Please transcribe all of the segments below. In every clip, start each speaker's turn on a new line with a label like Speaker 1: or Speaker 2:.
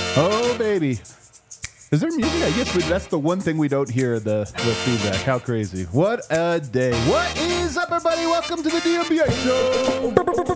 Speaker 1: Oh, baby. Is there music? I guess that's the one thing we don't hear, the feedback. How crazy. What a day. What is up, everybody? Welcome to the DMBA Show.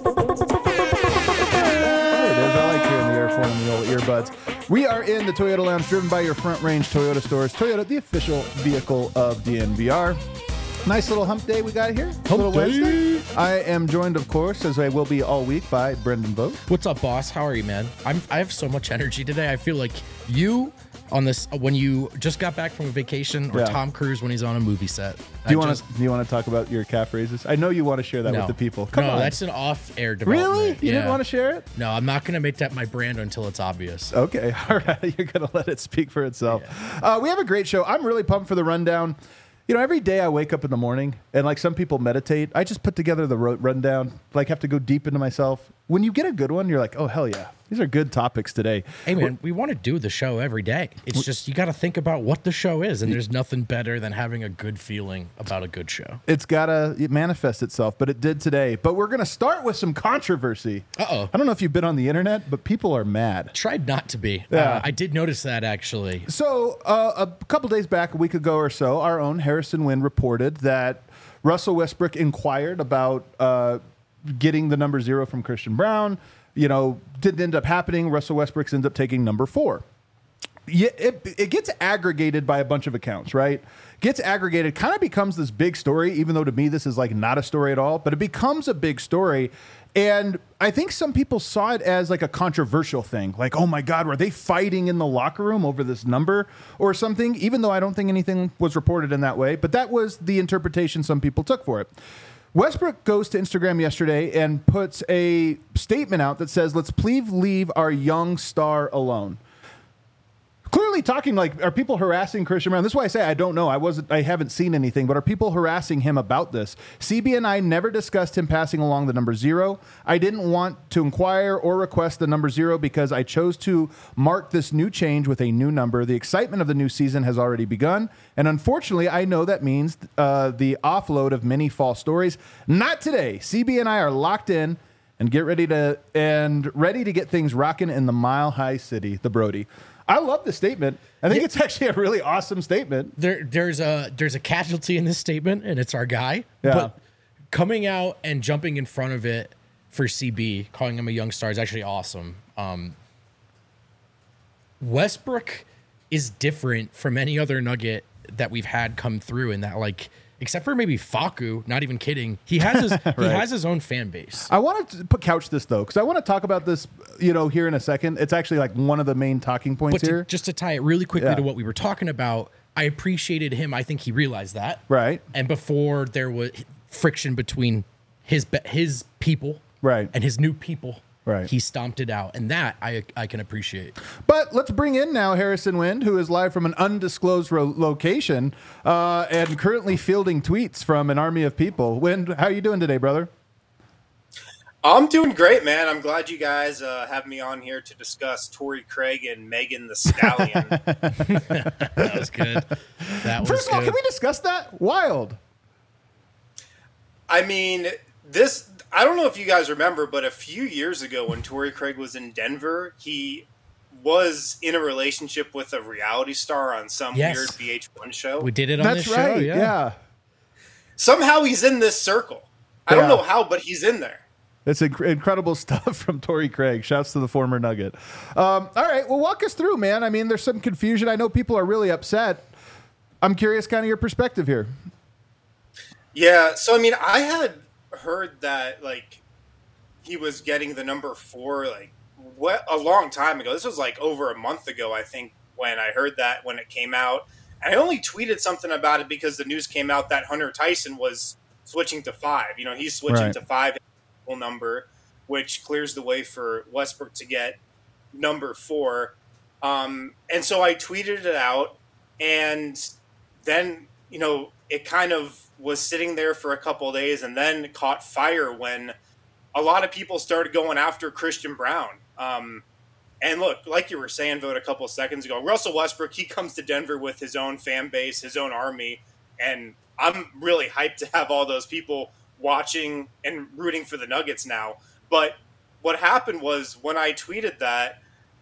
Speaker 1: There it is. I like hearing the airphone and the old earbuds. We are in the Toyota Lounge, driven by your Front Range Toyota stores. Toyota, the official vehicle of DNVR. Nice little hump day we got here.
Speaker 2: Hump
Speaker 1: Wednesday. I am joined, of course, as I will be all week, by Brendan Vogt.
Speaker 2: What's up, boss? How are you, man? I have so much energy today. I feel like you on this when you just got back from a vacation, or Tom Cruise when he's on a movie set.
Speaker 1: Do you want to talk about your calf raises? I know you want to share that with the people. Come on.
Speaker 2: That's an off-air development.
Speaker 1: Really? You didn't want to share it?
Speaker 2: No, I'm not going to make that my brand until it's obvious.
Speaker 1: Okay. All right. You're going to let it speak for itself. Yeah. We have a great show. I'm really pumped for the rundown. You know, every day I wake up in the morning and like some people meditate, I just put together the rundown, like have to go deep into myself. When you get a good one, you're like, oh, hell yeah. These are good topics today.
Speaker 2: Hey, man, we want to do the show every day. It's just you got to think about what the show is, and there's nothing better than having a good feeling about a good show.
Speaker 1: It's got to manifest itself, but it did today. But we're going to start with some controversy.
Speaker 2: Uh-oh.
Speaker 1: I don't know if you've been on the internet, but people are mad.
Speaker 2: Tried not to be.
Speaker 1: Yeah.
Speaker 2: I did notice that, actually.
Speaker 1: So a couple days back, a week ago or so, our own Harrison Wind reported that Russell Westbrook inquired about getting the number 0 from Christian Braun. You know, didn't end up happening. Russell Westbrook ends up taking number 4. Yeah, it gets aggregated by a bunch of accounts, right? Gets aggregated, kind of becomes this big story, even though to me this is like not a story at all, but it becomes a big story. And I think some people saw it as like a controversial thing. Like, oh my God, were they fighting in the locker room over this number or something? Even though I don't think anything was reported in that way, but that was the interpretation some people took for it. Westbrook goes to Instagram yesterday and puts a statement out that says, let's please leave our young star alone. Clearly talking like, are people harassing Christian Braun? This is why I say I don't know. I haven't seen anything, but are people harassing him about this? CB and I never discussed him passing along the number 0. I didn't want to inquire or request the number 0 because I chose to mark this new change with a new number. The excitement of the new season has already begun, and unfortunately, I know that means the offload of many false stories. Not today. CB and I are locked in and ready to get things rocking in the Mile High City, the Brody. I love this statement. I think it's actually a really awesome statement.
Speaker 2: There's a casualty in this statement, and it's our guy.
Speaker 1: Yeah.
Speaker 2: But coming out and jumping in front of it for CB, calling him a young star, is actually awesome. Westbrook is different from any other Nugget that we've had come through in that, like, except for maybe Facu, not even kidding, he has his
Speaker 1: right.
Speaker 2: he has his own fan base.
Speaker 1: I want to couch this though, because I want to talk about this, here in a second. It's actually like one of the main talking points here.
Speaker 2: Just to tie it really quickly to what we were talking about, I appreciated him. I think he realized that.
Speaker 1: Right.
Speaker 2: And before there was friction between his people,
Speaker 1: right,
Speaker 2: and his new people,
Speaker 1: right,
Speaker 2: he stomped it out, and that I can appreciate.
Speaker 1: But let's bring in now Harrison Wind, who is live from an undisclosed location and currently fielding tweets from an army of people. Wind, how are you doing today, brother?
Speaker 3: I'm doing great, man. I'm glad you guys have me on here to discuss Torrey Craig and Megan the Stallion.
Speaker 2: That was good.
Speaker 1: First of all, can we discuss that? Wild.
Speaker 3: I mean, I don't know if you guys remember, but a few years ago when Torrey Craig was in Denver, he was in a relationship with a reality star on some weird VH1 show.
Speaker 2: We did it on this show.
Speaker 1: That's right, yeah.
Speaker 3: Somehow he's in this circle. I don't know how, but he's in there.
Speaker 1: It's incredible stuff from Torrey Craig. Shouts to the former Nugget. All right, well, walk us through, man. I mean, there's some confusion. I know people are really upset. I'm curious kind of your perspective here.
Speaker 3: Yeah, so, I mean, I had heard that, like, he was getting the number 4, like, a long time ago. This was, like, over a month ago, I think, when I heard that, when it came out. And I only tweeted something about it because the news came out that Hunter Tyson was switching to 5. He's switching to 5 number, which clears the way for Westbrook to get number 4. And so I tweeted it out, and then, it kind of was sitting there for a couple of days and then caught fire when a lot of people started going after Christian Braun. And look, like you were saying, Vote, a couple of seconds ago, Russell Westbrook, he comes to Denver with his own fan base, his own army, and I'm really hyped to have all those people watching and rooting for the Nuggets now. But what happened was when I tweeted that,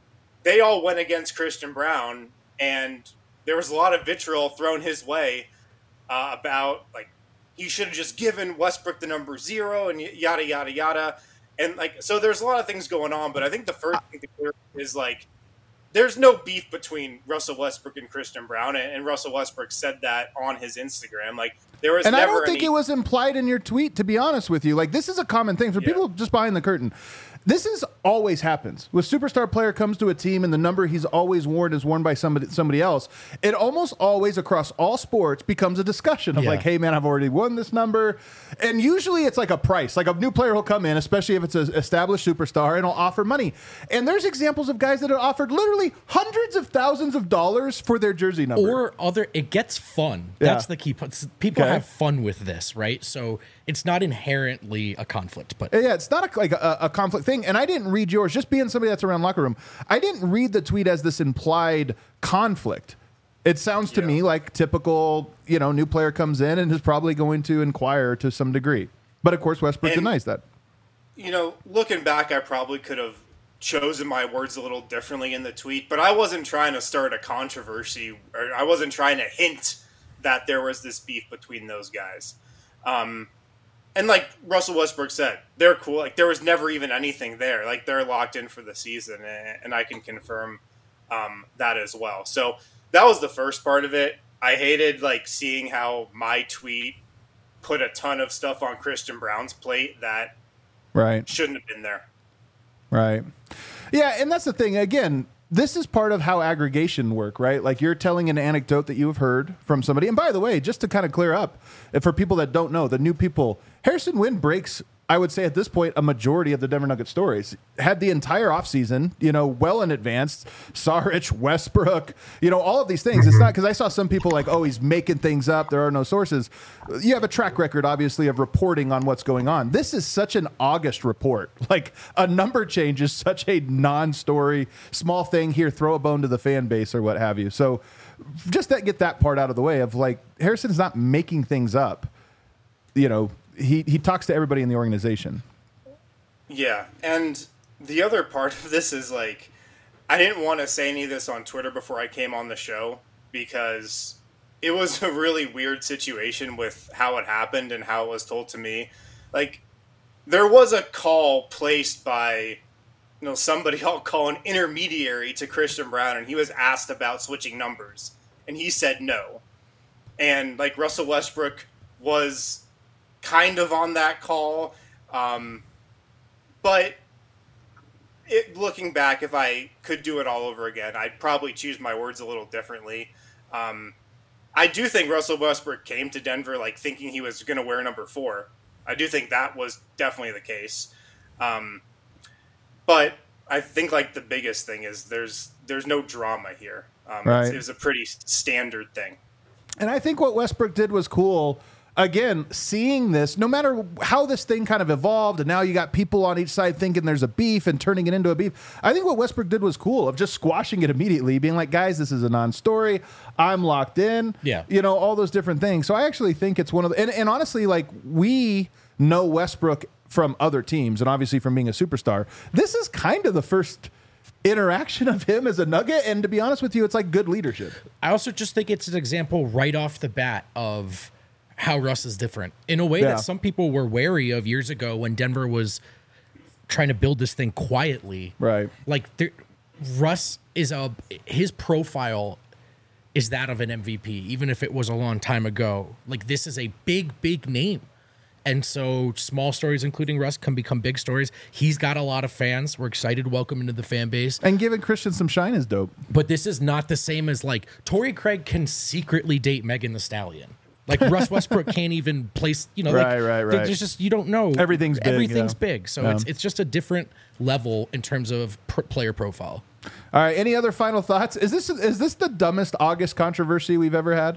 Speaker 3: they all went against Christian Braun, and there was a lot of vitriol thrown his way about like he should have just given Westbrook the number 0 and yada yada yada, and like so there's a lot of things going on. But I think the first thing to clear is like there's no beef between Russell Westbrook and Christian Braun, and Russell Westbrook said that on his Instagram. Like there was,
Speaker 1: and
Speaker 3: never
Speaker 1: I don't think it was implied in your tweet. To be honest with you, like this is a common thing for people just behind the curtain. This is always happens. When a superstar player comes to a team and the number he's always worn is worn by somebody else, it almost always across all sports becomes a discussion of like, hey man, I've already won this number. And usually it's like a price. Like a new player will come in, especially if it's an established superstar, and will offer money. And there's examples of guys that have offered literally hundreds of thousands of dollars for their jersey number.
Speaker 2: Or it gets fun. That's the key. People have fun with this, right? So it's not inherently a conflict, but
Speaker 1: it's not a conflict thing. And I didn't read yours, just being somebody that's around locker room. I didn't read the tweet as this implied conflict. It sounds to me like typical, new player comes in and is probably going to inquire to some degree. But of course, Westbrook denies that.
Speaker 3: Looking back, I probably could have chosen my words a little differently in the tweet, but I wasn't trying to start a controversy, or I wasn't trying to hint that there was this beef between those guys. And like Russell Westbrook said, they're cool. Like there was never even anything there. Like they're locked in for the season, and I can confirm that as well. So that was the first part of it. I hated like seeing how my tweet put a ton of stuff on Christian Braun's plate that shouldn't have been there.
Speaker 1: Right. Yeah, and that's the thing. Again, this is part of how aggregation work, right? Like you're telling an anecdote that you've heard from somebody. And by the way, just to kind of clear up, for people that don't know, the new people, Harrison Wind breaks, I would say at this point, a majority of the Denver Nuggets stories. Had the entire offseason, well in advance. Saric, Westbrook, all of these things. It's not because I saw some people like, oh, he's making things up. There are no sources. You have a track record, obviously, of reporting on what's going on. This is such an August report. Like a number change is such a non-story, small thing here, throw a bone to the fan base or what have you. So just to get that part out of the way of like, Harrison's not making things up. He talks to everybody in the organization. Yeah,
Speaker 3: and the other part of this is like, I didn't want to say any of this on Twitter before I came on the show because it was a really weird situation with how it happened and how it was told to me. Like, there was a call placed by, somebody I'll call an intermediary to Christian Braun, and he was asked about switching numbers, and he said no. And like Russell Westbrook was kind of on that call. But looking back, if I could do it all over again, I'd probably choose my words a little differently. I do think Russell Westbrook came to Denver like thinking he was going to wear number 4. I do think that was definitely the case. But I think like the biggest thing is there's no drama here. It was a pretty standard thing.
Speaker 1: And I think what Westbrook did was cool. Again, seeing this, no matter how this thing kind of evolved, and now you got people on each side thinking there's a beef and turning it into a beef. I think what Westbrook did was cool of just squashing it immediately, being like, guys, this is a non-story. I'm locked in.
Speaker 2: Yeah.
Speaker 1: All those different things. So I actually think it's one of the, and honestly, like we know Westbrook from other teams and obviously from being a superstar. This is kind of the first interaction of him as a Nugget. And to be honest with you, it's like good leadership.
Speaker 2: I also just think it's an example right off the bat of how Russ is different in a way that some people were wary of years ago when Denver was trying to build this thing quietly.
Speaker 1: Right.
Speaker 2: Like Russ is his profile is that of an MVP, even if it was a long time ago. Like this is a big, big name. And so small stories, including Russ, can become big stories. He's got a lot of fans. We're excited to welcome him into the fan base.
Speaker 1: And giving Christian some shine is dope.
Speaker 2: But this is not the same as like Torrey Craig can secretly date Megan Thee Stallion. Like Russ Westbrook can't even place,
Speaker 1: right.
Speaker 2: There's just, you don't know.
Speaker 1: Everything's
Speaker 2: big. So it's just a different level in terms of player profile.
Speaker 1: All right. Any other final thoughts? Is this the dumbest August controversy we've ever had?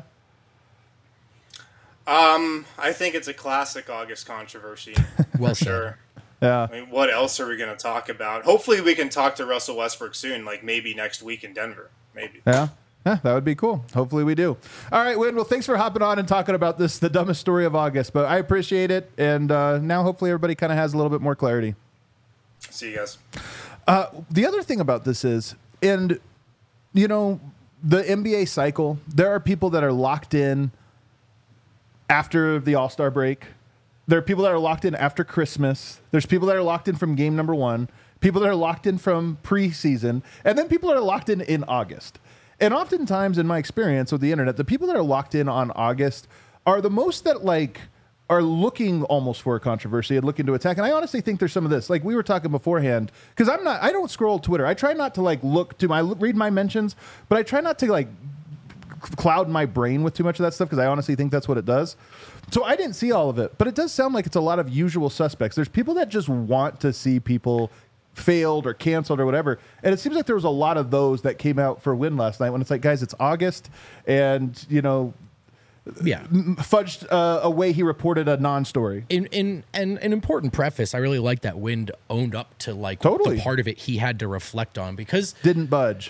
Speaker 3: I think it's a classic August controversy.
Speaker 2: Well,
Speaker 3: sure.
Speaker 1: Yeah.
Speaker 3: I mean, what else are we going to talk about? Hopefully we can talk to Russell Westbrook soon, like maybe next week in Denver. Maybe.
Speaker 1: Yeah. Yeah, that would be cool. Hopefully we do. All right, Win. Well, thanks for hopping on and talking about this, the dumbest story of August. But I appreciate it. And now hopefully everybody kind of has a little bit more clarity.
Speaker 3: See you guys.
Speaker 1: The other thing about this is And, you know, the NBA cycle, there are people that are locked in after the All-Star break. There are people that are locked in after Christmas. There's people that are locked in from game number 1, people that are locked in from preseason, and then people that are locked in August. And oftentimes, in my experience with the internet, the people that are locked in on August are the most that like are looking almost for a controversy and looking to attack. And I honestly think there's some of this. Like we were talking beforehand, because I don't scroll Twitter. I try not to like read my mentions, but I try not to like cloud my brain with too much of that stuff because I honestly think that's what it does. So I didn't see all of it, but it does sound like it's a lot of usual suspects. There's people that just want to see people failed or canceled or whatever. And it seems like there was a lot of those that came out for Win last night when it's like, guys, it's August and, you know, fudged a way he reported a non-story.
Speaker 2: In an important preface, I really like that Wind owned up to like
Speaker 1: Totally.
Speaker 2: the part of it he had to reflect on because
Speaker 1: Didn't budge.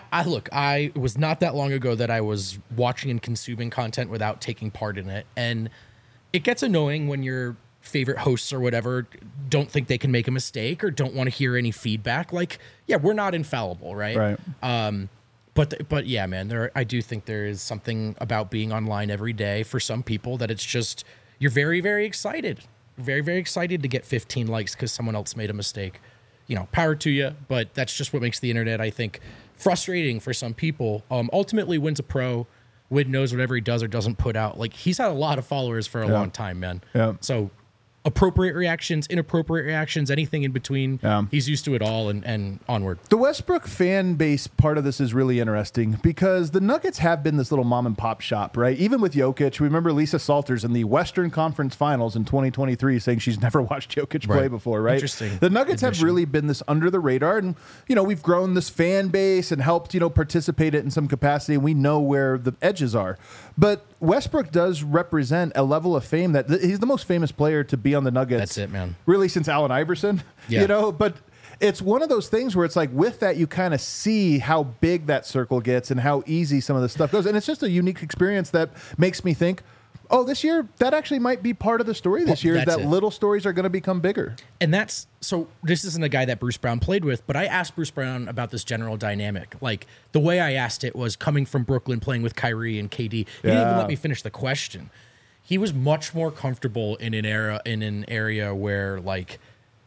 Speaker 2: I was not that long ago that I was watching and consuming content without taking part in it. And it gets annoying when your favorite hosts or whatever don't think they can make a mistake or don't want to hear any feedback. Like, yeah, we're not infallible, right?
Speaker 1: Right.
Speaker 2: But yeah, man, I do think there is something about being online every day for some people that it's just you're very, very excited. Very, very excited to get 15 likes because someone else made a mistake. You know, power to you, but that's just what makes the internet, I think, frustrating for some people. Ultimately, Win's a pro. Win knows whatever he does or doesn't put out. Like, he's had a lot of followers for a long time, man.
Speaker 1: Yeah.
Speaker 2: So appropriate reactions, inappropriate reactions, anything in between.
Speaker 1: Yeah.
Speaker 2: He's used to it all and onward.
Speaker 1: The Westbrook fan base part of this is really interesting because the Nuggets have been this little mom and pop shop, right? Even with Jokic, we remember Lisa Salters in the Western Conference Finals in 2023 saying she's never watched Jokic play before, right?
Speaker 2: Interesting.
Speaker 1: The Nuggets have really been this under the radar, and you know we've grown this fan base and helped participate it in some capacity, and we know where the edges are. But Westbrook does represent a level of fame that he's the most famous player to be on the Nuggets.
Speaker 2: That's it, man.
Speaker 1: Really, since Allen Iverson,
Speaker 2: Yeah.
Speaker 1: But it's one of those things where it's like with that, you kind of see how big that circle gets and how easy some of this stuff goes. And it's just a unique experience that makes me think, oh, this year, that actually might be part of the story this year is
Speaker 2: that's
Speaker 1: that
Speaker 2: it.
Speaker 1: little stories are going to become bigger.
Speaker 2: And that's so this isn't a guy that Bruce Brown played with, but I asked Bruce Brown about this general dynamic. Like the way I asked it was coming from Brooklyn, playing with Kyrie and KD. He didn't even let me finish the question. He was much more comfortable in an area where like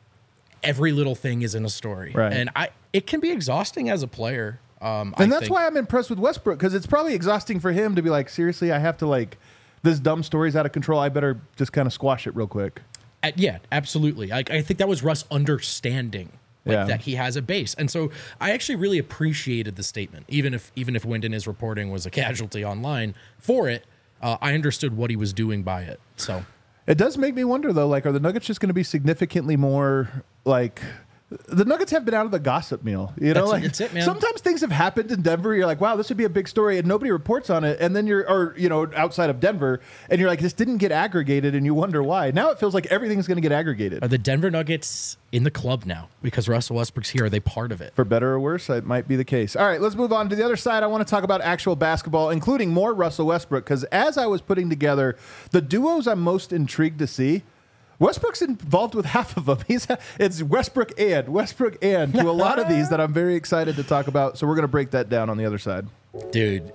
Speaker 2: every little thing is in a story.
Speaker 1: Right.
Speaker 2: And it can be exhausting as a player.
Speaker 1: And that's why I'm impressed with Westbrook, because it's probably exhausting for him to be like, seriously, I have to like, this dumb story's out of control. I better just kind of squash it real quick.
Speaker 2: Yeah, absolutely. I think that was Russ understanding that he has a base. And so I actually really appreciated the statement, even if Wind in his reporting was a casualty online for it. I understood what he was doing by it. So
Speaker 1: it does make me wonder, though, like, are the Nuggets just going to be significantly more like... The Nuggets have been out of the gossip meal.
Speaker 2: That's it, man.
Speaker 1: Sometimes things have happened in Denver. You're like, wow, this would be a big story, and nobody reports on it. And then outside of Denver, and you're like, this didn't get aggregated, and you wonder why. Now it feels like everything's going to get aggregated.
Speaker 2: are the Denver Nuggets in the club now because Russell Westbrook's here? Are they part of it?
Speaker 1: For better or worse, it might be the case. All right, let's move on to the other side. I want to talk about actual basketball, including more Russell Westbrook, because as I was putting together the duos I'm most intrigued to see, Westbrook's involved with half of them. It's Westbrook and to a lot of these that I'm very excited to talk about. So we're going to break that down on the other side.
Speaker 2: Dude,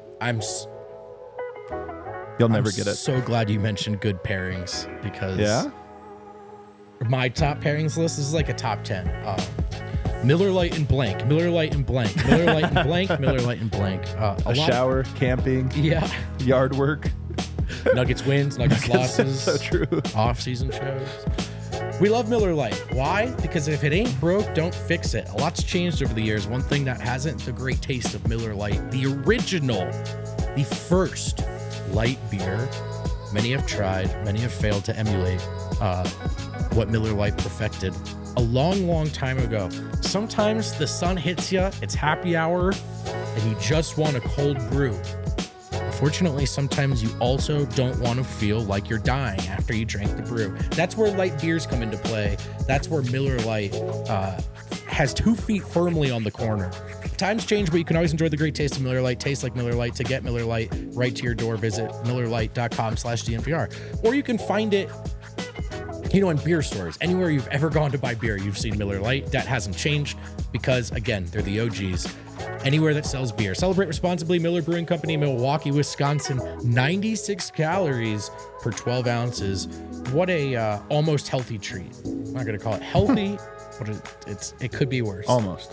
Speaker 1: You'll never get it.
Speaker 2: So glad you mentioned good pairings because my top pairings list is like a top 10. Miller Lite and blank, Miller Lite and blank, Miller Lite and blank, Miller Lite and blank.
Speaker 1: A shower, camping, yard work.
Speaker 2: Nuggets wins, Nuggets losses.
Speaker 1: So true.
Speaker 2: Off-season shows. We love Miller Lite. Why? Because if it ain't broke, don't fix it. A lot's changed over the years. One thing that hasn't, the great taste of Miller Lite. The original, the first light beer. Many have tried, many have failed to emulate what Miller Lite perfected a long, long time ago. Sometimes the sun hits you, it's happy hour, and you just want a cold brew. Unfortunately, sometimes you also don't want to feel like you're dying after you drank the brew. That's where light beers come into play. That's where Miller Lite has 2 feet firmly on the corner. Times change, but you can always enjoy the great taste of Miller Lite. Taste like Miller Lite. To get Miller Lite right to your door, visit MillerLite.com/DNVR. Or you can find it, in beer stores. Anywhere you've ever gone to buy beer, you've seen Miller Lite. That hasn't changed because, again, they're the OGs. anywhere that sells beer. Celebrate responsibly. Miller Brewing Company, Milwaukee, Wisconsin. 96 calories per 12 ounces. What a almost healthy treat. I'm not going to call it healthy, but it could be worse.
Speaker 1: Almost.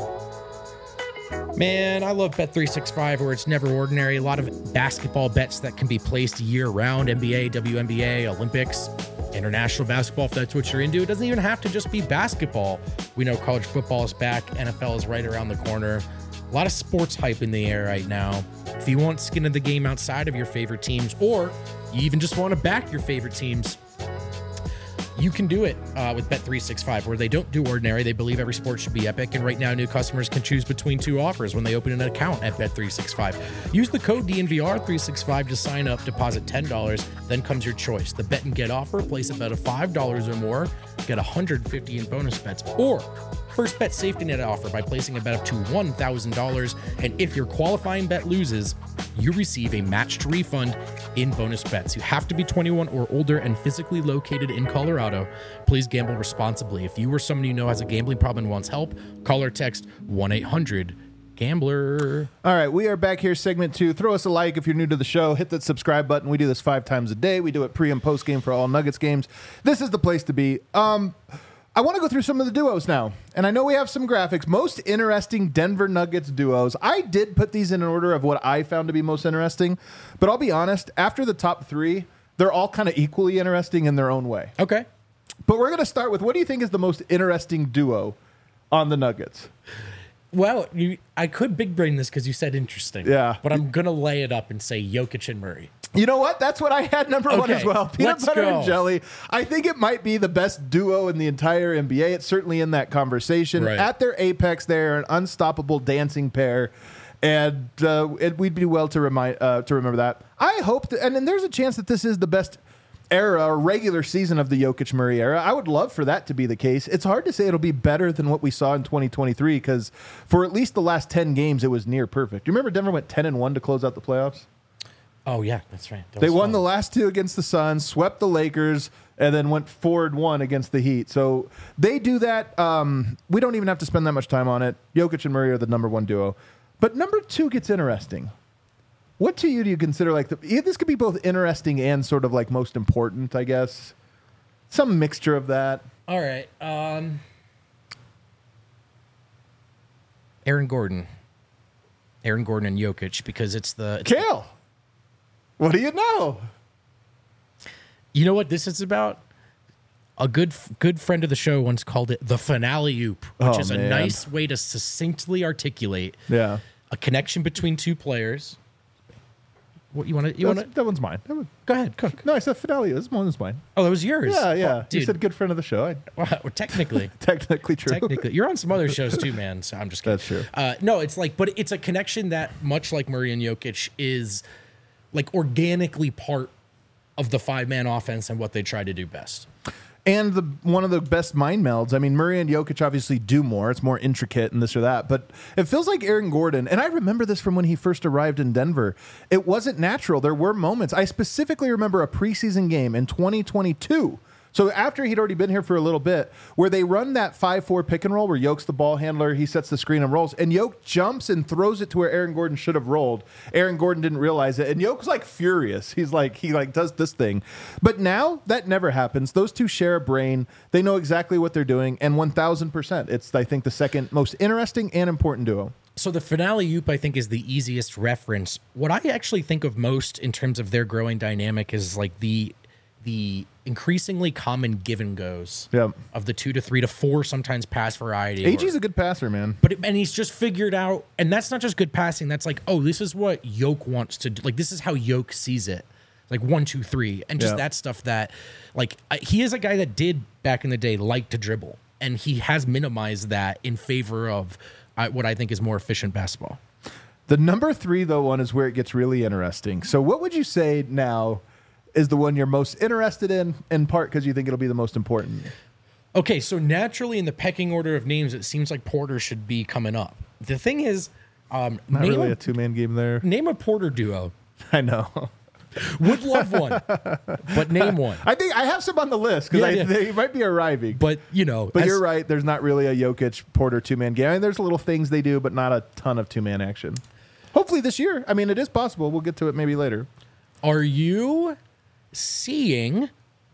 Speaker 2: Man, I love Bet365 where it's never ordinary. A lot of basketball bets that can be placed year-round. NBA, WNBA, Olympics, international basketball, if that's what you're into. It doesn't even have to just be basketball. We know college football is back. NFL is right around the corner. A lot of sports hype in the air right now. If you want skin in the game outside of your favorite teams, or you even just want to back your favorite teams, you can do it with Bet365, where they don't do ordinary. They believe every sport should be epic. And right now, new customers can choose between 2 offers when they open an account at Bet365. Use the code DNVR365 to sign up, deposit $10. Then comes your choice. The bet and get offer, place a bet of $5 or more, get $150 in bonus bets. Or first bet safety net offer by placing a bet up to $1,000. And if your qualifying bet loses, you receive a matched refund in bonus bets. You have to be 21 or older and physically located in Colorado. Please gamble responsibly. If you or someone you know has a gambling problem and wants help, call or text 1-800-GAMBLER.
Speaker 1: All right, we are back here, segment 2. Throw us a like if you're new to the show. Hit that subscribe button. We do this 5 times a day. We do it pre and post game for all Nuggets games. This is the place to be. I want to go through some of the duos now. And I know we have some graphics. Most interesting Denver Nuggets duos. I did put these in an order of what I found to be most interesting. But I'll be honest, after the top 3, they're all kind of equally interesting in their own way.
Speaker 2: Okay.
Speaker 1: But we're going to start with, what do you think is the most interesting duo on the Nuggets?
Speaker 2: Well, I could big brain this because you said interesting.
Speaker 1: Yeah.
Speaker 2: But I'm going to lay it up and say Jokic and Murray.
Speaker 1: You know what? That's what I had number 1 as well. Peanut
Speaker 2: let's
Speaker 1: butter
Speaker 2: go.
Speaker 1: and jelly. I think it might be the best duo in the entire NBA. It's certainly in that conversation.
Speaker 2: Right.
Speaker 1: At their apex, they're an unstoppable dancing pair. And we'd be well to remember that. I hope and then there's a chance that this is the best era or regular season of the Jokic Murray era. I would love for that to be the case. It's hard to say it'll be better than what we saw in 2023 because for at least the last 10 games, it was near perfect. Do you remember Denver went 10-1 to close out the playoffs?
Speaker 2: Oh, yeah, that's right.
Speaker 1: They won the last 2 against the Suns, swept the Lakers, and then went 4-1 against the Heat. So they do that. We don't even have to spend that much time on it. Jokic and Murray are the number 1 duo. But number 2 gets interesting. What to you do you consider like this could be both interesting and sort of like most important, I guess? Some mixture of that.
Speaker 2: All right. Aaron Gordon and Jokic, because it's
Speaker 1: Kale. What do you know?
Speaker 2: You know what this is about? A good friend of the show once called it the finale oop, which is a nice way to succinctly articulate a connection between 2 players. What you want to?
Speaker 1: That one's mine.
Speaker 2: Go ahead, cook.
Speaker 1: No, I said Fidelio. This one is mine.
Speaker 2: Oh, that was yours.
Speaker 1: Yeah.
Speaker 2: Well,
Speaker 1: you said good friend of the show.
Speaker 2: Well, technically,
Speaker 1: technically true.
Speaker 2: Technically, you're on some other shows too, man. So I'm just kidding.
Speaker 1: That's true.
Speaker 2: No, it's like, but it's a connection that, much like Murray and Jokic, is like organically part of the 5-man offense and what they try to do best.
Speaker 1: And one of the best mind melds. I mean, Murray and Jokic obviously do more. It's more intricate and this or that. But it feels like Aaron Gordon, and I remember this from when he first arrived in Denver. It wasn't natural. There were moments. I specifically remember a preseason game in 2022. So after he'd already been here for a little bit, where they run that 5-4 pick and roll where Yoke's the ball handler, he sets the screen and rolls, and Yoke jumps and throws it to where Aaron Gordon should have rolled. Aaron Gordon didn't realize it, and Yoke's like furious. He does this thing. But now that never happens. Those 2 share a brain. They know exactly what they're doing, and 1,000%. It's, I think, the second most interesting and important duo.
Speaker 2: So the finale oop, I think, is the easiest reference. What I actually think of most in terms of their growing dynamic is like the increasingly common give and goes of the 2 to 3 to 4 sometimes pass variety.
Speaker 1: AG's a good passer, man.
Speaker 2: And he's just figured out, and that's not just good passing. That's like, oh, this is what Yoke wants to do. Like, this is how Yoke sees it. Like 1, 2, 3, and just that stuff that, like, he is a guy that did back in the day like to dribble, and he has minimized that in favor of what I think is more efficient basketball.
Speaker 1: The number 3 though one is where it gets really interesting. So what would you say now is the one you're most interested in part because you think it'll be the most important?
Speaker 2: Okay, so naturally in the pecking order of names, it seems like Porter should be coming up. The thing is,
Speaker 1: not really a 2-man game there.
Speaker 2: Name a Porter duo.
Speaker 1: I know.
Speaker 2: Would love one, but name one.
Speaker 1: I think I have some on the list because
Speaker 2: Yeah.
Speaker 1: they might be arriving.
Speaker 2: But
Speaker 1: But you're right. There's not really a Jokic Porter 2-man game. I mean, there's little things they do, but not a ton of 2-man action. Hopefully this year. I mean, it is possible. We'll get to it maybe later.
Speaker 2: Are you seeing?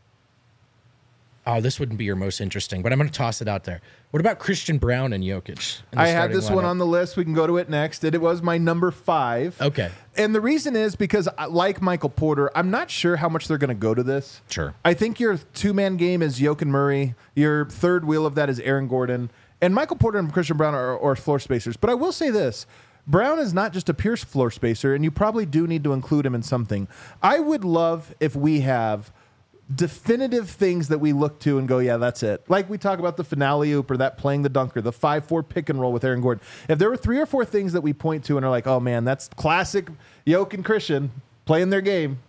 Speaker 2: Oh, this wouldn't be your most interesting, but I'm going to toss it out there. What about Christian Brown and Jokic?
Speaker 1: I had this one on the list. We can go to it next. And it was my number 5.
Speaker 2: Okay.
Speaker 1: And the reason is because, like Michael Porter, I'm not sure how much they're going to go to this.
Speaker 2: Sure.
Speaker 1: I think your 2-man game is Jokic and Murray. Your third wheel of that is Aaron Gordon. And Michael Porter and Christian Brown are floor spacers. But I will say this. Brown is not just a pure floor spacer, and you probably do need to include him in something. I would love if we have definitive things that we look to and go, yeah, that's it. Like we talk about the finale oop or that playing the dunker, the 5-4 pick and roll with Aaron Gordon. If there were 3 or 4 things that we point to and are like, oh man, that's classic Jokic and Christian playing their game.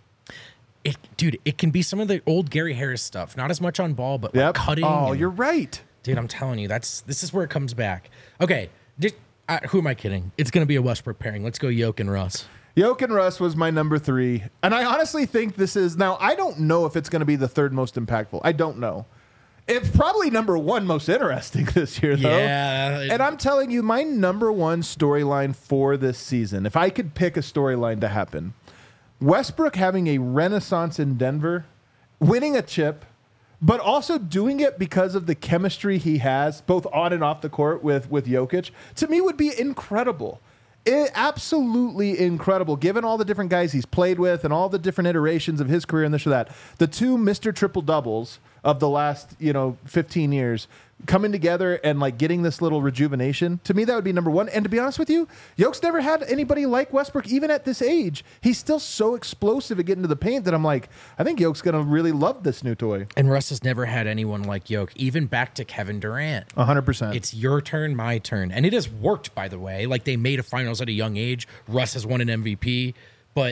Speaker 2: It can be some of the old Gary Harris stuff. Not as much on ball, but like cutting.
Speaker 1: Oh,
Speaker 2: and-
Speaker 1: you're right.
Speaker 2: Dude, I'm telling you, this is where it comes back. Okay, who am I kidding? It's going to be a Westbrook pairing. Let's go Jokic and Russ.
Speaker 1: Jokic and Russ was my number 3. And I honestly think this is, now I don't know if it's going to be the third most impactful. I don't know. It's probably number 1 most interesting this year, though.
Speaker 2: Yeah.
Speaker 1: And I'm telling you, my number 1 storyline for this season, if I could pick a storyline to happen, Westbrook having a renaissance in Denver, winning a chip, but also doing it because of the chemistry he has, both on and off the court with Jokic, to me would be incredible. Absolutely incredible, given all the different guys he's played with and all the different iterations of his career and this or that. The 2 Mr. Triple-Doubles of the last, 15 years coming together and like getting this little rejuvenation, to me that would be number 1. And to be honest with you, Jokic's never had anybody like Westbrook, even at this age. He's still so explosive at getting to the paint that I'm like, I think Jokic's going to really love this new toy.
Speaker 2: And Russ has never had anyone like Jokic, even back to Kevin Durant.
Speaker 1: 100%.
Speaker 2: It's your turn, my turn. And it has worked, by the way. Like, they made a finals at a young age. Russ has won an MVP, but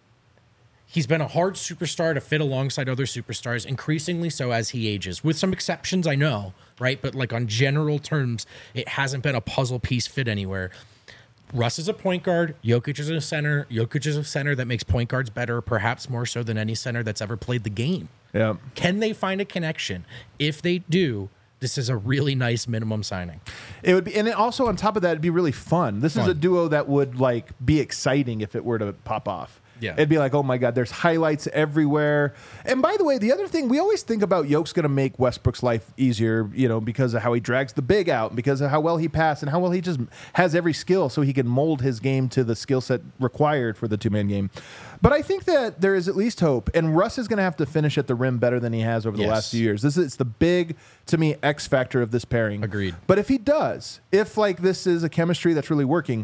Speaker 2: he's been a hard superstar to fit alongside other superstars, increasingly so as he ages, with some exceptions, I know, right? But like on general terms, it hasn't been a puzzle piece fit anywhere. Russ is a point guard. Jokic is a center. Jokic is a center that makes point guards better, perhaps more so than any center that's ever played the game.
Speaker 1: Yeah.
Speaker 2: Can they find a connection? If they do, this is a really nice minimum signing.
Speaker 1: It would be, and it also on top of that, it'd be really fun. This is a duo that would like be exciting if it were to pop off.
Speaker 2: Yeah.
Speaker 1: It'd be like, oh my God, there's highlights everywhere. And by the way, the other thing, we always think about Jokic's going to make Westbrook's life easier, because of how he drags the big out, because of how well he passed and how well he just has every skill so he can mold his game to the skill set required for the 2-man game. But I think that there is at least hope, and Russ is going to have to finish at the rim better than he has over the last few years. It's the big, to me, X factor of this pairing.
Speaker 2: Agreed.
Speaker 1: But if he does, if like this is a chemistry that's really working,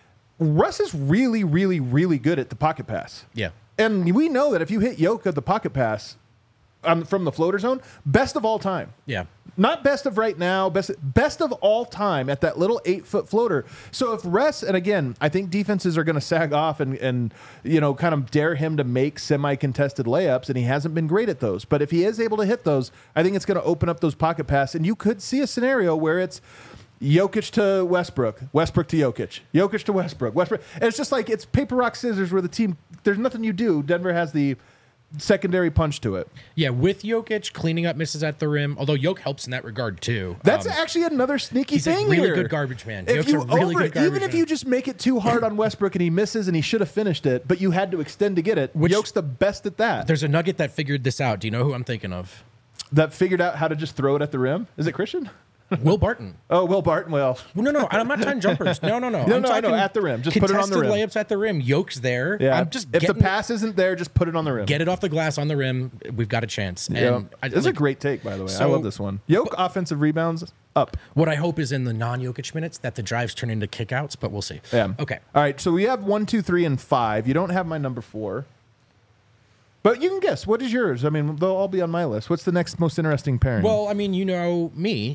Speaker 1: Russ is really, really, really good at the pocket pass.
Speaker 2: Yeah.
Speaker 1: And we know that if you hit Jokic at the pocket pass from the floater zone, best of all time.
Speaker 2: Yeah.
Speaker 1: Not best of right now, best of all time at that little 8-foot floater. So if Russ, and again, I think defenses are going to sag off and kind of dare him to make semi-contested layups, and he hasn't been great at those. But if he is able to hit those, I think it's going to open up those pocket passes, and you could see a scenario where it's Jokic to Westbrook, Westbrook to Jokic, Jokic to Westbrook, Westbrook. And it's just like it's paper, rock, scissors where the team, there's nothing you do. Denver has the secondary punch to it.
Speaker 2: Yeah, with Jokic cleaning up misses at the rim, although Jokic helps in that regard too.
Speaker 1: That's actually another sneaky
Speaker 2: he's
Speaker 1: thing
Speaker 2: a really
Speaker 1: here.
Speaker 2: good garbage man.
Speaker 1: If
Speaker 2: Jokic's
Speaker 1: you
Speaker 2: a really good garbage
Speaker 1: even if
Speaker 2: man.
Speaker 1: you just make it too hard on Westbrook and he misses and he should have finished it, but you had to extend to get it, Jokic's the best at that.
Speaker 2: There's a nugget that figured this out. Do you know who I'm thinking of?
Speaker 1: That figured out how to just throw it at the rim? Is it Christian?
Speaker 2: Will Barton.
Speaker 1: Oh, Will Barton. Well,
Speaker 2: No, I'm not talking jumpers. No.
Speaker 1: No,
Speaker 2: I'm
Speaker 1: I know,
Speaker 2: talking
Speaker 1: at the rim. Just put it on the rim.
Speaker 2: Contested layups at the rim. Jokic's there.
Speaker 1: yeah.
Speaker 2: I'm just
Speaker 1: if the pass isn't there, just put it on the rim.
Speaker 2: get it off the glass on the rim. We've got a chance.
Speaker 1: Yeah.
Speaker 2: And
Speaker 1: This is a great take, by the way. I
Speaker 2: so-
Speaker 1: love this one. Jokic offensive rebounds up.
Speaker 2: What I hope is in the non-Jokic minutes that the drives turn into kickouts, but we'll see.
Speaker 1: Yeah.
Speaker 2: Okay.
Speaker 1: All right. So we have 1, 2, 3, and 5. You don't have my number 4. But you can guess. What is yours? I mean, they'll all be on my list. What's the next most interesting pairing?
Speaker 2: Well, I mean, you know me.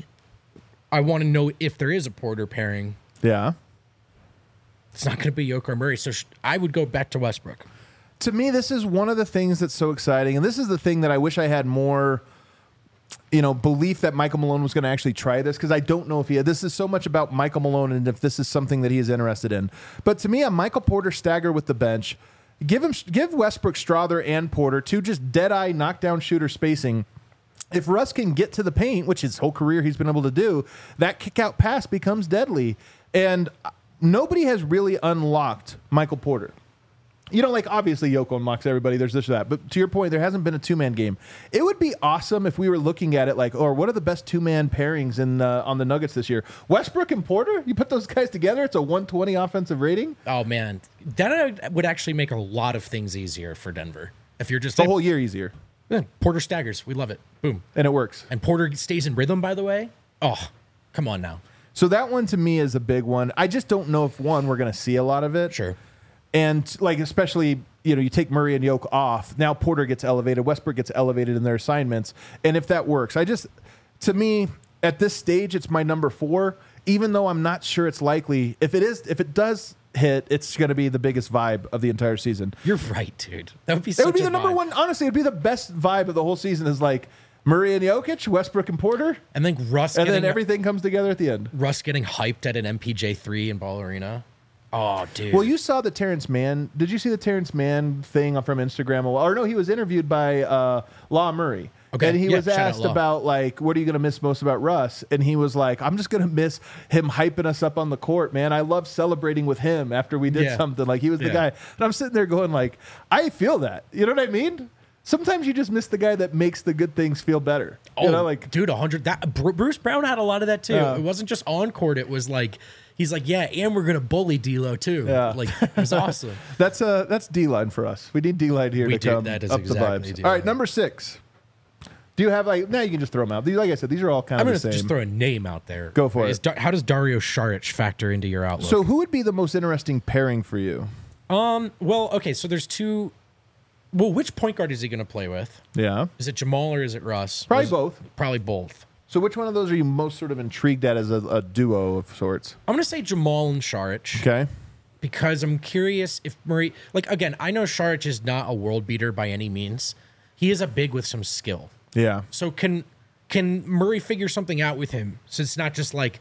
Speaker 2: I want to know if there is a Porter pairing.
Speaker 1: yeah.
Speaker 2: It's not going to be Jokic or Murray, so I would go back to Westbrook.
Speaker 1: To me, this is one of the things that's so exciting. And this is the thing that I wish I had more, belief that Michael Malone was going to actually try this, because I don't know if this is so much about Michael Malone and if this is something that he is interested in. But to me, a Michael Porter stagger with the bench, Give Westbrook, Strawther, and Porter two just dead-eye knockdown shooter spacing. If Russ can get to the paint, which his whole career he's been able to do, that kick-out pass becomes deadly. And nobody has really unlocked Michael Porter. You know, like, obviously Yoko unlocks everybody. There's this or that. But to your point, there hasn't been a two-man game. It would be awesome if we were looking at it like, or what are the best two-man pairings on the Nuggets this year? Westbrook and Porter? You put those guys together, it's a 120 offensive rating?
Speaker 2: Oh, man. That would actually make a lot of things easier for Denver. If you're just...
Speaker 1: The whole year easier.
Speaker 2: Yeah, Porter staggers. We love it. Boom.
Speaker 1: And it works.
Speaker 2: And Porter stays in rhythm, by the way. Oh, come on now.
Speaker 1: So that one to me is a big one. I just don't know if, one, we're going to see a lot of it.
Speaker 2: Sure.
Speaker 1: And, like, especially, you know, you take Murray and Yoke off. Now Porter gets elevated. Westbrook gets elevated in their assignments. And if that works, to me, at this stage, it's my number 4, even though I'm not sure it's likely. If it does hit, it's going to be the biggest vibe of the entire season.
Speaker 2: You're right, dude. That would be such
Speaker 1: It would be
Speaker 2: a
Speaker 1: the number
Speaker 2: vibe.
Speaker 1: one. Honestly, it'd be the best vibe of the whole season is, like, Murray and Jokic, Westbrook and Porter.
Speaker 2: And then
Speaker 1: And then everything comes together at the end.
Speaker 2: Russ getting hyped at an MPJ3 in Ball Arena. Oh, dude.
Speaker 1: Well, you saw the Terrence Mann. Did you see the Terrence Mann thing from Instagram? Or no, he was interviewed by Law Murray.
Speaker 2: Okay.
Speaker 1: And he was
Speaker 2: shout out
Speaker 1: asked
Speaker 2: Law.
Speaker 1: about, like, what are you going to miss most about Russ? And he was like, I'm just going to miss him hyping us up on the court, man. I love celebrating with him after we did
Speaker 2: Yeah.
Speaker 1: something. Like, he was the
Speaker 2: Yeah.
Speaker 1: guy. And I'm sitting there going, like, I feel that. You know what I mean? Sometimes you just miss the guy that makes the good things feel better. You know, like,
Speaker 2: dude, 100. Bruce Brown had a lot of that too.
Speaker 1: Yeah.
Speaker 2: It wasn't just on court. It was like, he's like, yeah, and we're gonna bully D'Lo too.
Speaker 1: Yeah.
Speaker 2: Like, it was awesome.
Speaker 1: that's D-line for us. We need D-line here
Speaker 2: We
Speaker 1: to
Speaker 2: do.
Speaker 1: come
Speaker 2: That is
Speaker 1: up
Speaker 2: exactly
Speaker 1: the vibes.
Speaker 2: D-line.
Speaker 1: All right, number 6. Do you have, like, now you can just throw them out. Like I said, these are all kind
Speaker 2: I'm
Speaker 1: of
Speaker 2: gonna
Speaker 1: the same.
Speaker 2: just throw a name out there.
Speaker 1: Go for it.
Speaker 2: How does Dario Saric factor into your outlook?
Speaker 1: So who would be the most interesting pairing for you?
Speaker 2: well, okay, so there's two. Well, which point guard is he gonna play with?
Speaker 1: Yeah.
Speaker 2: Is it Jamal or is it Russ?
Speaker 1: Probably both.
Speaker 2: Probably both.
Speaker 1: So which one of those are you most sort of intrigued at as a duo of sorts?
Speaker 2: I'm gonna say Jamal and Saric.
Speaker 1: Okay.
Speaker 2: Because I'm curious if Murray, like, again, I know Saric is not a world beater by any means. He is a big with some skill.
Speaker 1: Yeah.
Speaker 2: So can Murray figure something out with him? So it's not just like,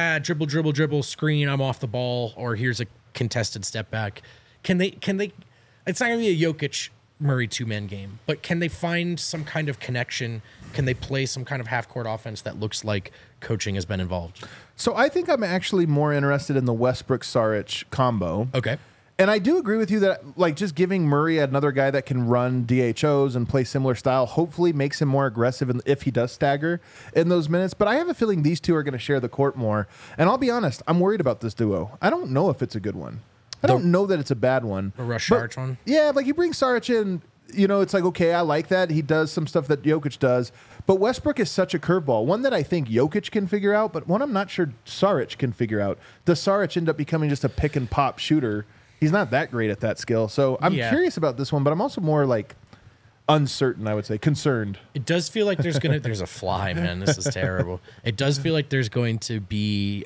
Speaker 2: dribble, screen, I'm off the ball, or here's a contested step back. Can they it's not gonna be a Jokic Murray 2-man game, but can they find some kind of connection? Can they play some kind of half-court offense that looks like coaching has been involved?
Speaker 1: So I think I'm actually more interested in the Westbrook-Saric combo.
Speaker 2: Okay.
Speaker 1: And I do agree with you that, like, just giving Murray another guy that can run DHOs and play similar style hopefully makes him more aggressive if he does stagger in those minutes. But I have a feeling these two are going to share the court more. And I'll be honest, I'm worried about this duo. I don't know if it's a good one. I don't know that it's a bad one.
Speaker 2: The Russ
Speaker 1: But,
Speaker 2: Saric one?
Speaker 1: Yeah, like, you bring Saric in, you know, it's like, okay, I like that. He does some stuff that Jokic does. But Westbrook is such a curveball. One that I think Jokic can figure out, but one I'm not sure Saric can figure out. Does Saric end up becoming just a pick and pop shooter? He's not that great at that skill. So I'm curious about this one, but I'm also more, like, uncertain, I would say, concerned.
Speaker 2: It does feel like there's a fly, man. This is terrible. It does feel like there's going to be.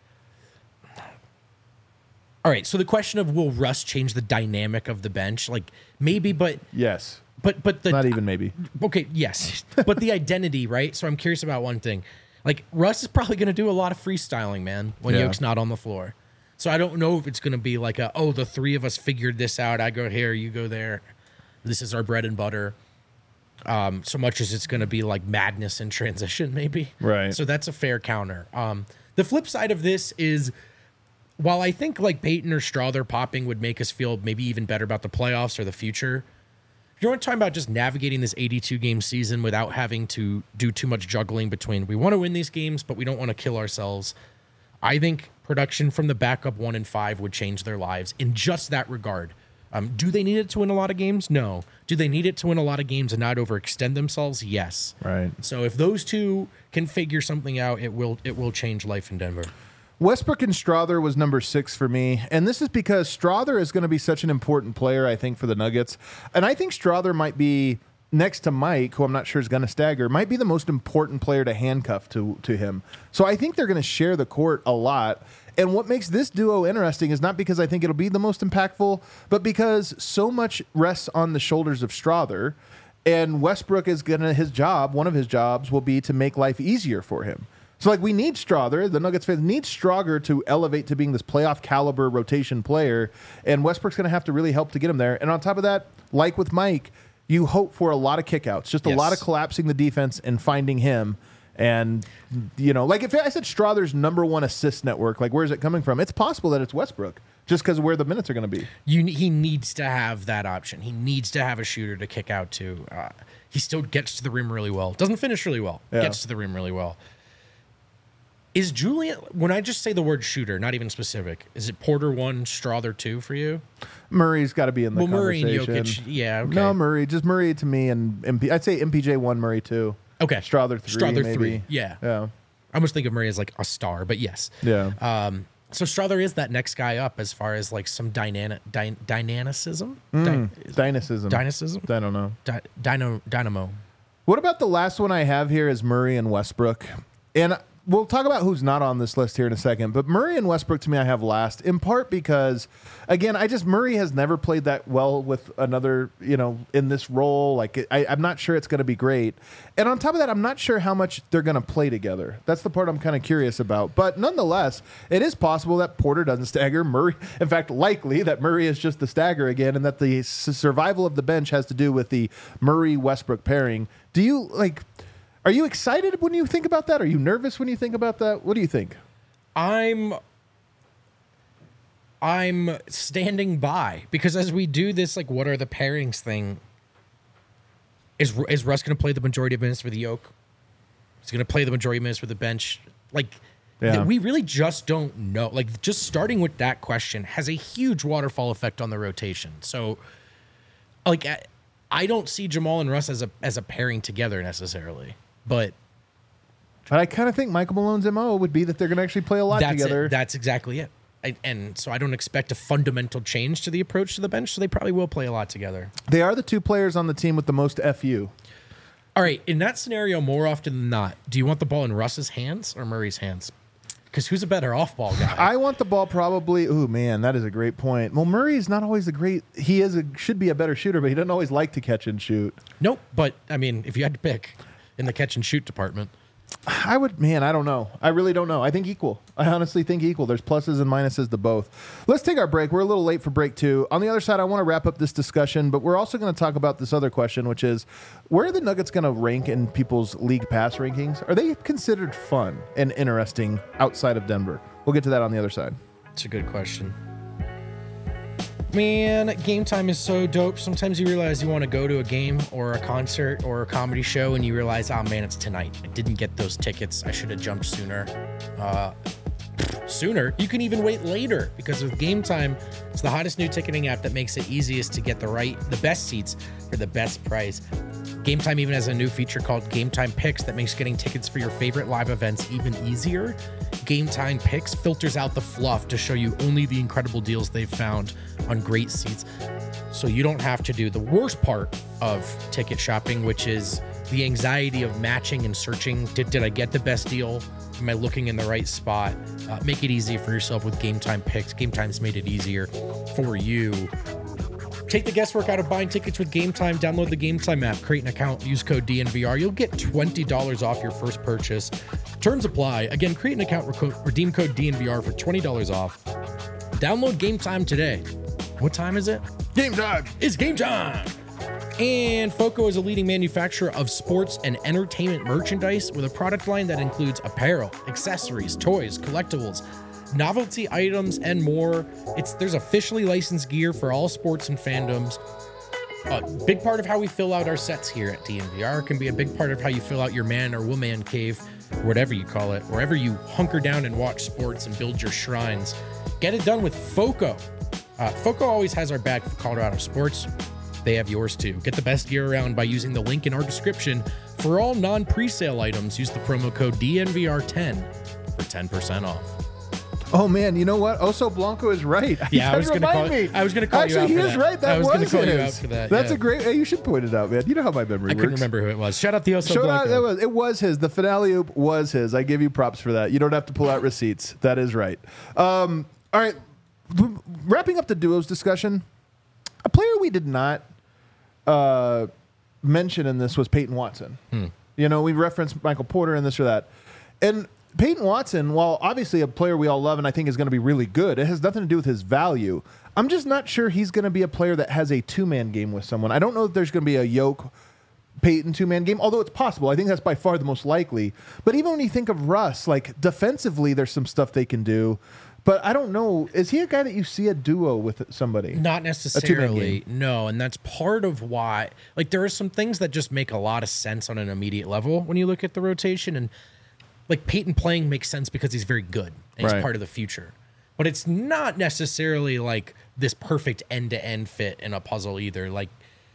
Speaker 2: All right, so the question of will Russ change the dynamic of the bench? Like, maybe, but
Speaker 1: Yes.
Speaker 2: but the
Speaker 1: Not even maybe.
Speaker 2: okay, yes, but the identity, right? So I'm curious about one thing. Like, Russ is probably going to do a lot of freestyling, man, when
Speaker 1: Yeah.
Speaker 2: Yoke's not on the floor. So I don't know if it's going to be like the three of us figured this out. I go here, you go there. This is our bread and butter. So much as it's going to be like madness in transition, maybe.
Speaker 1: Right.
Speaker 2: So that's a fair counter. The flip side of this is, while I think like Peyton or Strawther popping would make us feel maybe even better about the playoffs or the future, you know what I'm talking about, just navigating this 82-game season without having to do too much juggling between we want to win these games, but we don't want to kill ourselves. I think production from the backup 1 and 5 would change their lives in just that regard. Do they need it to win a lot of games? No. Do they need it to win a lot of games and not overextend themselves? Yes.
Speaker 1: Right.
Speaker 2: So if those two can figure something out, it will change life in Denver.
Speaker 1: Westbrook and Strawther was number 6 for me. And this is because Strawther is going to be such an important player, I think, for the Nuggets. And I think Strawther might be, next to Mike, who I'm not sure is going to stagger, might be the most important player to handcuff to him. So I think they're going to share the court a lot. And what makes this duo interesting is not because I think it'll be the most impactful, but because so much rests on the shoulders of Strawther. And Westbrook is going to, one of his jobs will be to make life easier for him. So, like, we need Strother. The Nuggets fans need Strother to elevate to being this playoff caliber rotation player, and Westbrook's going to have to really help to get him there. And on top of that, like with Mike, you hope for a lot of kickouts, just a lot of collapsing the defense and finding him. And, you know, like if I said Strother's number one assist network, like where's it coming from? It's possible that it's Westbrook just because of where the minutes are going to be.
Speaker 2: He needs to have that option. He needs to have a shooter to kick out to. He still gets to the rim really well. Doesn't finish really well.
Speaker 1: Yeah.
Speaker 2: Gets to the rim really well. Is Julian, when I just say the word shooter, not even specific, is it Porter 1, Strother 2 for you?
Speaker 1: Murray's got to be in the conversation.
Speaker 2: Murray and Jokic, yeah, okay.
Speaker 1: No, Murray. Just Murray to me and I'd say MPJ 1, Murray 2.
Speaker 2: Okay.
Speaker 1: Strother 3,
Speaker 2: Strother
Speaker 1: maybe.
Speaker 2: 3, yeah.
Speaker 1: Yeah.
Speaker 2: I almost think of Murray as like a star, but yes.
Speaker 1: Yeah.
Speaker 2: So Strother is that next guy up as far as like some dynamicism?
Speaker 1: Dynasism.
Speaker 2: Dynasism?
Speaker 1: I don't know.
Speaker 2: Dynamo.
Speaker 1: What about the last one I have here is Murray and Westbrook? And we'll talk about who's not on this list here in a second, but Murray and Westbrook to me I have last, in part because, again, Murray has never played that well with another, you know, in this role. Like, I'm not sure it's going to be great. And on top of that, I'm not sure how much they're going to play together. That's the part I'm kind of curious about. But nonetheless, it is possible that Porter doesn't stagger. Murray, in fact, likely that Murray is just the stagger again, and that the survival of the bench has to do with the Murray-Westbrook pairing. Do you, like... Are you excited when you think about that? Are you nervous when you think about that? What do you think? I'm
Speaker 2: standing by because as we do this, like, what are the pairings thing? Is Russ going to play the majority of minutes for the Yoke? Is he going to play the majority of minutes for the bench? Like, we really just don't know. Like, just starting with that question has a huge waterfall effect on the rotation. So, like, I don't see Jamal and Russ as a pairing together necessarily. But
Speaker 1: I kind of think Michael Malone's MO would be that they're going to actually play a lot together.
Speaker 2: That's exactly it. And so I don't expect a fundamental change to the approach to the bench, so they probably will play a lot together.
Speaker 1: They are the two players on the team with the most FU.
Speaker 2: All right, in that scenario, more often than not, do you want the ball in Russ's hands or Murray's hands? Because who's a better off-ball guy?
Speaker 1: I want the ball probably... Ooh, man, that is a great point. Well, Murray's not always a great... He should be a better shooter, but he doesn't always like to catch and shoot.
Speaker 2: Nope, but, I mean, if you had to pick... in the catch and shoot department,
Speaker 1: I don't know. I really don't know. I think equal. I honestly think equal. There's pluses and minuses to both. Let's take our break. We're a little late for break 2. On the other side, I want to wrap up this discussion, but we're also going to talk about this other question, which is, where are the Nuggets going to rank in people's league pass rankings? Are they considered fun and interesting outside of Denver? We'll get to that on the other side.
Speaker 2: It's a good question. Man, Game Time is so dope. Sometimes you realize you want to go to a game or a concert or a comedy show and you realize, oh man, it's tonight. I didn't get those tickets. I should have jumped sooner. Sooner? You can even wait later because with Game Time, it's the hottest new ticketing app that makes it easiest to get the best seats for the best price. Game Time even has a new feature called Game Time Picks that makes getting tickets for your favorite live events even easier. Game Time Picks filters out the fluff to show you only the incredible deals they've found on great seats, so you don't have to do the worst part of ticket shopping, which is the anxiety of matching and searching. Did I get the best deal? Am I looking in the right spot? Make it easy for yourself with Game Time Picks. Game Time's made it easier for you. Take the guesswork out of buying tickets with Game Time. Download the Game Time app, create an account, use code DNVR. You'll get $20 off your first purchase. Terms apply. Again, create an account, redeem code DNVR for $20 off. Download Game Time today. What time is it?
Speaker 1: Game time!
Speaker 2: It's game time! And FOCO is a leading manufacturer of sports and entertainment merchandise with a product line that includes apparel, accessories, toys, collectibles, novelty items, and more. There's officially licensed gear for all sports and fandoms. A big part of how we fill out our sets here at DNVR can be a big part of how you fill out your man or woman cave, or whatever you call it, wherever you hunker down and watch sports and build your shrines. Get it done with FOCO. FOCO always has our back for Colorado sports. They have yours too. Get the best gear around by using the link in our description. For all non-presale items, use the promo code DNVR10 for 10% off.
Speaker 1: Oh man, you know what? Oso Blanco is right.
Speaker 2: Yeah, I was going to call you out for that.
Speaker 1: Actually, he is right. That was
Speaker 2: going to call you out for that.
Speaker 1: That's a great. Hey, you should point it out, man. You know how my memory works.
Speaker 2: I couldn't remember who it was. Shout out the Oso Blanco.
Speaker 1: It was his. The finale oop was his. I give you props for that. You don't have to pull out receipts. That is right. All right. Wrapping up the duos discussion, a player we did not mention in this was Peyton Watson. You know, we referenced Michael Porter and this or that. And Peyton Watson, while obviously a player we all love and I think is going to be really good, it has nothing to do with his value. I'm just not sure he's going to be a player that has a two-man game with someone. I don't know if there's going to be a Yoke Peyton two-man game, although it's possible. I think that's by far the most likely. But even when you think of Russ, like defensively, there's some stuff they can do. But I don't know. Is he a guy that you see a duo with somebody?
Speaker 2: Not necessarily, no. And that's part of why, like, there are some things that just make a lot of sense on an immediate level when you look at the rotation. And, like, Peyton playing makes sense because he's very good and he's part of the future. But it's not necessarily, like, this perfect end-to-end fit in a puzzle either. Like,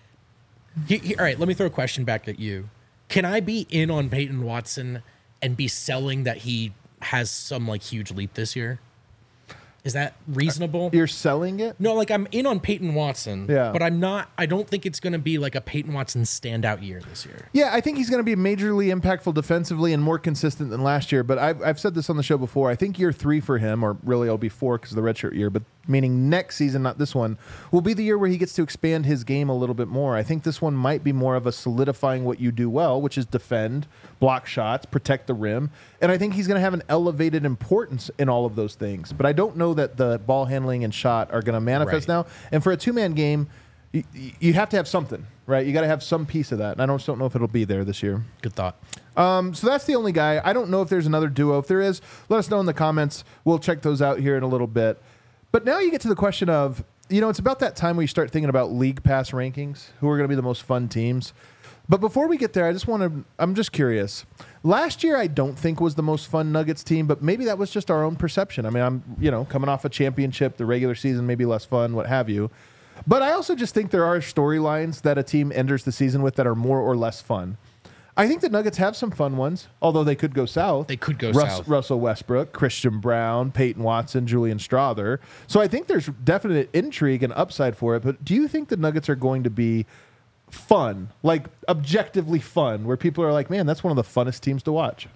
Speaker 2: all right, let me throw a question back at you. Can I be in on Peyton Watson and be selling that he has some, like, huge leap this year? Is that reasonable?
Speaker 1: You're selling it?
Speaker 2: No, like I'm in on Peyton Watson, but I don't think it's going to be like a Peyton Watson standout year this year.
Speaker 1: Yeah, I think he's going to be majorly impactful defensively and more consistent than last year. But I've said this on the show before. I think year 3 for him, or really it'll be 4 because of the redshirt year, but meaning next season, not this one, will be the year where he gets to expand his game a little bit more. I think this one might be more of a solidifying what you do well, which is defend, block shots, protect the rim. And I think he's going to have an elevated importance in all of those things. But I don't know that the ball handling and shot are going to manifest now. And for a two-man game, you have to have something, right? You got to have some piece of that. And I just don't know if it'll be there this year.
Speaker 2: Good thought.
Speaker 1: So that's the only guy. I don't know if there's another duo. If there is, let us know in the comments. We'll check those out here in a little bit. But now you get to the question of, it's about that time where you start thinking about league pass rankings, who are going to be the most fun teams. But before we get there, I'm just curious. Last year, I don't think was the most fun Nuggets team, but maybe that was just our own perception. I mean, I'm, coming off a championship, the regular season, maybe less fun, what have you. But I also just think there are storylines that a team enters the season with that are more or less fun. I think the Nuggets have some fun ones, although they could go south.
Speaker 2: They could go south.
Speaker 1: Russell Westbrook, Christian Brown, Peyton Watson, Julian Strawther. So I think there's definite intrigue and upside for it. But do you think the Nuggets are going to be fun, like objectively fun, where people are like, man, that's one of the funnest teams to watch?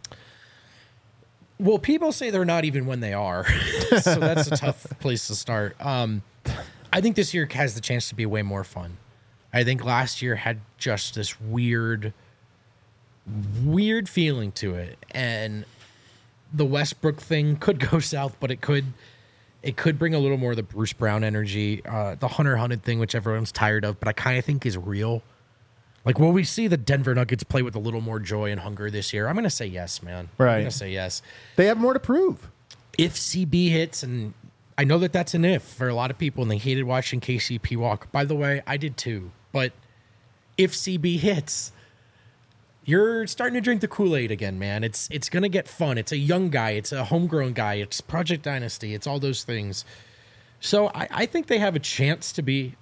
Speaker 2: Well, people say they're not even when they are. So that's a tough place to start. I think this year has the chance to be way more fun. I think last year had just this weird feeling to it, and the Westbrook thing could go south, but it could bring a little more of the Bruce Brown energy, the Hunter Hunted thing, which everyone's tired of, but I kind of think is real. Like, will we see the Denver Nuggets play with a little more joy and hunger this year? I'm going to say yes, man.
Speaker 1: Right.
Speaker 2: I'm going to say yes.
Speaker 1: They have more to prove.
Speaker 2: If CB hits, and I know that that's an if for a lot of people, and they hated watching KCP walk. By the way, I did too. But if CB hits, you're starting to drink the Kool-Aid again, man. It's going to get fun. It's a young guy. It's a homegrown guy. It's Project Dynasty. It's all those things. So I think they have a chance to be,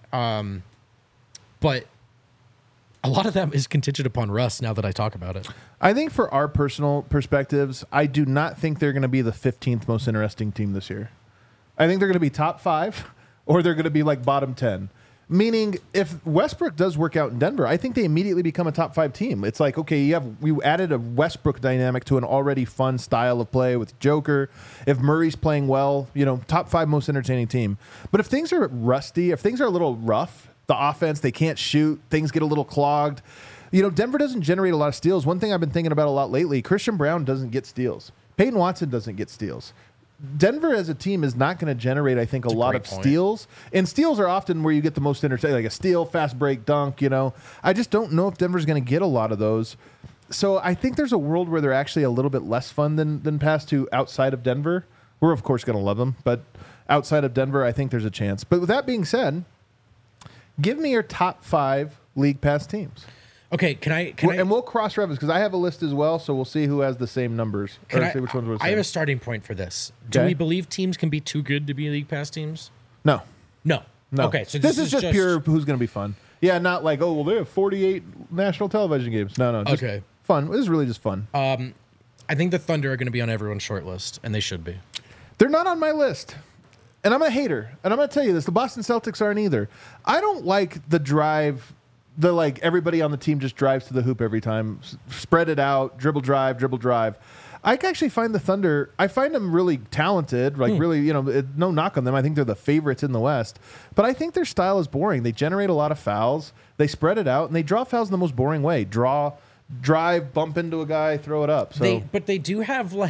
Speaker 2: but a lot of that is contingent upon Russ now that I talk about it.
Speaker 1: I think for our personal perspectives, I do not think they're going to be the 15th most interesting team this year. I think they're going to be top 5, or they're going to be like bottom 10. Meaning, if Westbrook does work out in Denver, I think they immediately become a top 5 team. It's like, okay, we added a Westbrook dynamic to an already fun style of play with Joker. If Murray's playing well, top 5 most entertaining team. But if things are rusty, if things are a little rough, the offense, they can't shoot, things get a little clogged. Denver doesn't generate a lot of steals. One thing I've been thinking about a lot lately, Christian Brown doesn't get steals. Peyton Watson doesn't get steals. Denver as a team is not going to generate, I think, a lot of steals. And steals are often where you get the most entertaining, like a steal, fast break, dunk, I just don't know if Denver's going to get a lot of those. So I think there's a world where they're actually a little bit less fun than past 2 outside of Denver. We're, of course, going to love them. But outside of Denver, I think there's a chance. But with that being said, give me your top 5 league pass teams.
Speaker 2: Okay, can I?
Speaker 1: And we'll cross-reference, because I have a list as well, so we'll see who has the same numbers.
Speaker 2: See which ones we're saying. I have a starting point for this. Do we believe teams can be too good to be league pass teams?
Speaker 1: No.
Speaker 2: Okay, so
Speaker 1: this is just pure who's going to be fun. Yeah, not like, oh, well, they have 48 national television games. No. Just fun. This is really just fun.
Speaker 2: I think the Thunder are going to be on everyone's short list, and they should be.
Speaker 1: They're not on my list. And I'm a hater. And I'm going to tell you this. The Boston Celtics aren't either. I don't like the drive... everybody on the team just drives to the hoop every time. Spread it out, dribble, drive. I actually find the Thunder, I find them really talented, really, no knock on them. I think they're the favorites in the West. But I think their style is boring. They generate a lot of fouls. They spread it out, and they draw fouls in the most boring way. Drive, bump into a guy, throw it up. So,
Speaker 2: but they do have,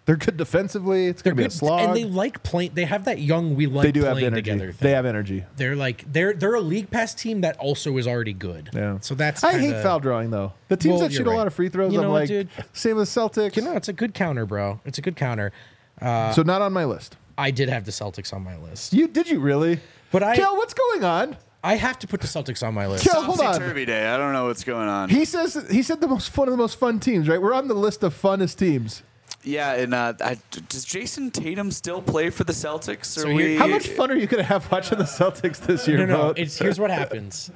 Speaker 1: They're good defensively. It's
Speaker 2: They're
Speaker 1: going to be a
Speaker 2: good,
Speaker 1: slog.
Speaker 2: and they like playing. They have that young. We like
Speaker 1: They do
Speaker 2: playing
Speaker 1: have energy.
Speaker 2: together. Thing.
Speaker 1: They have energy.
Speaker 2: They're a league pass team that also is already good.
Speaker 1: Yeah.
Speaker 2: So that's
Speaker 1: I hate foul drawing though. The teams
Speaker 2: Well,
Speaker 1: that shoot
Speaker 2: you're
Speaker 1: a lot
Speaker 2: right.
Speaker 1: of free throws,
Speaker 2: You
Speaker 1: I'm
Speaker 2: know what,
Speaker 1: like,
Speaker 2: dude?
Speaker 1: same with Celtics.
Speaker 2: You know, it's a good counter, bro. It's a good counter.
Speaker 1: So not on my list.
Speaker 2: I did have the Celtics on my list,
Speaker 1: Did you really?
Speaker 2: but
Speaker 1: Kel, what's going on?
Speaker 2: I have to put the Celtics on my list.
Speaker 1: Kel, hold on.
Speaker 4: Topsy-turvy day. I don't know what's going on.
Speaker 1: He said the most one of the most fun teams, right? We're on the list of funnest teams.
Speaker 4: Yeah, and does Jason Tatum still play for the Celtics?
Speaker 2: So here-
Speaker 1: How much fun are you going to have watching the Celtics this year?
Speaker 2: No.
Speaker 1: Vogt?
Speaker 2: Here's what happens.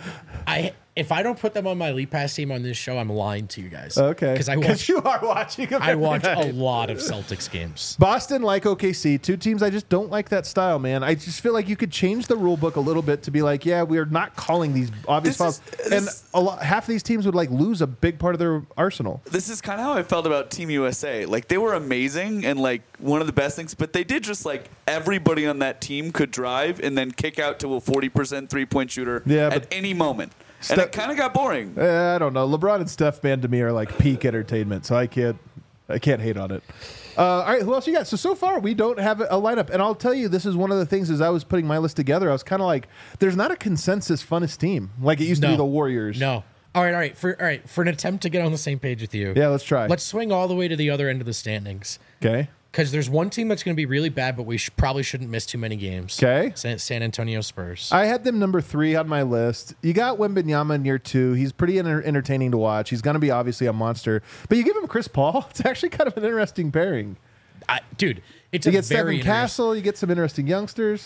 Speaker 2: If I don't put them on my League Pass team on this show, I'm lying to you guys.
Speaker 1: Okay.
Speaker 2: Because
Speaker 1: you are watching them.
Speaker 2: I
Speaker 1: every
Speaker 2: watch a
Speaker 1: night.
Speaker 2: lot of Celtics games.
Speaker 1: Boston, like OKC, two teams I just don't like that style, man. I just feel like you could change the rule book a little bit to be like, yeah, we are not calling these obvious fouls. And half of these teams would like lose a big part of their arsenal.
Speaker 4: This is kind of how I felt about Team USA. Like, they were amazing and like one of the best things, but they did just like everybody on that team could drive and then kick out to a 40% 3-point shooter at any moment. And it kind of got boring.
Speaker 1: I don't know. LeBron and Steph, man, to me are like peak entertainment, so I can't hate on it. All right, who else you got? So far, we don't have a lineup. And I'll tell you, this is one of the things as I was putting my list together, I was kind of like, there's not a consensus funnest team like it used to be the Warriors.
Speaker 2: No. All right. For an attempt to get on the same page with you.
Speaker 1: Yeah, let's try.
Speaker 2: Let's swing all the way to the other end of the standings.
Speaker 1: Okay.
Speaker 2: Because there's one team that's going to be really bad, but we probably shouldn't miss too many games.
Speaker 1: Okay.
Speaker 2: San Antonio Spurs.
Speaker 1: I had them number 3 on my list. You got Wembanyama in year 2. He's pretty entertaining to watch. He's going to be obviously a monster. But you give him Chris Paul. It's actually kind of an interesting pairing.
Speaker 2: Dude, it's
Speaker 1: You
Speaker 2: a
Speaker 1: get
Speaker 2: very
Speaker 1: Stephen Castle. You get some interesting youngsters.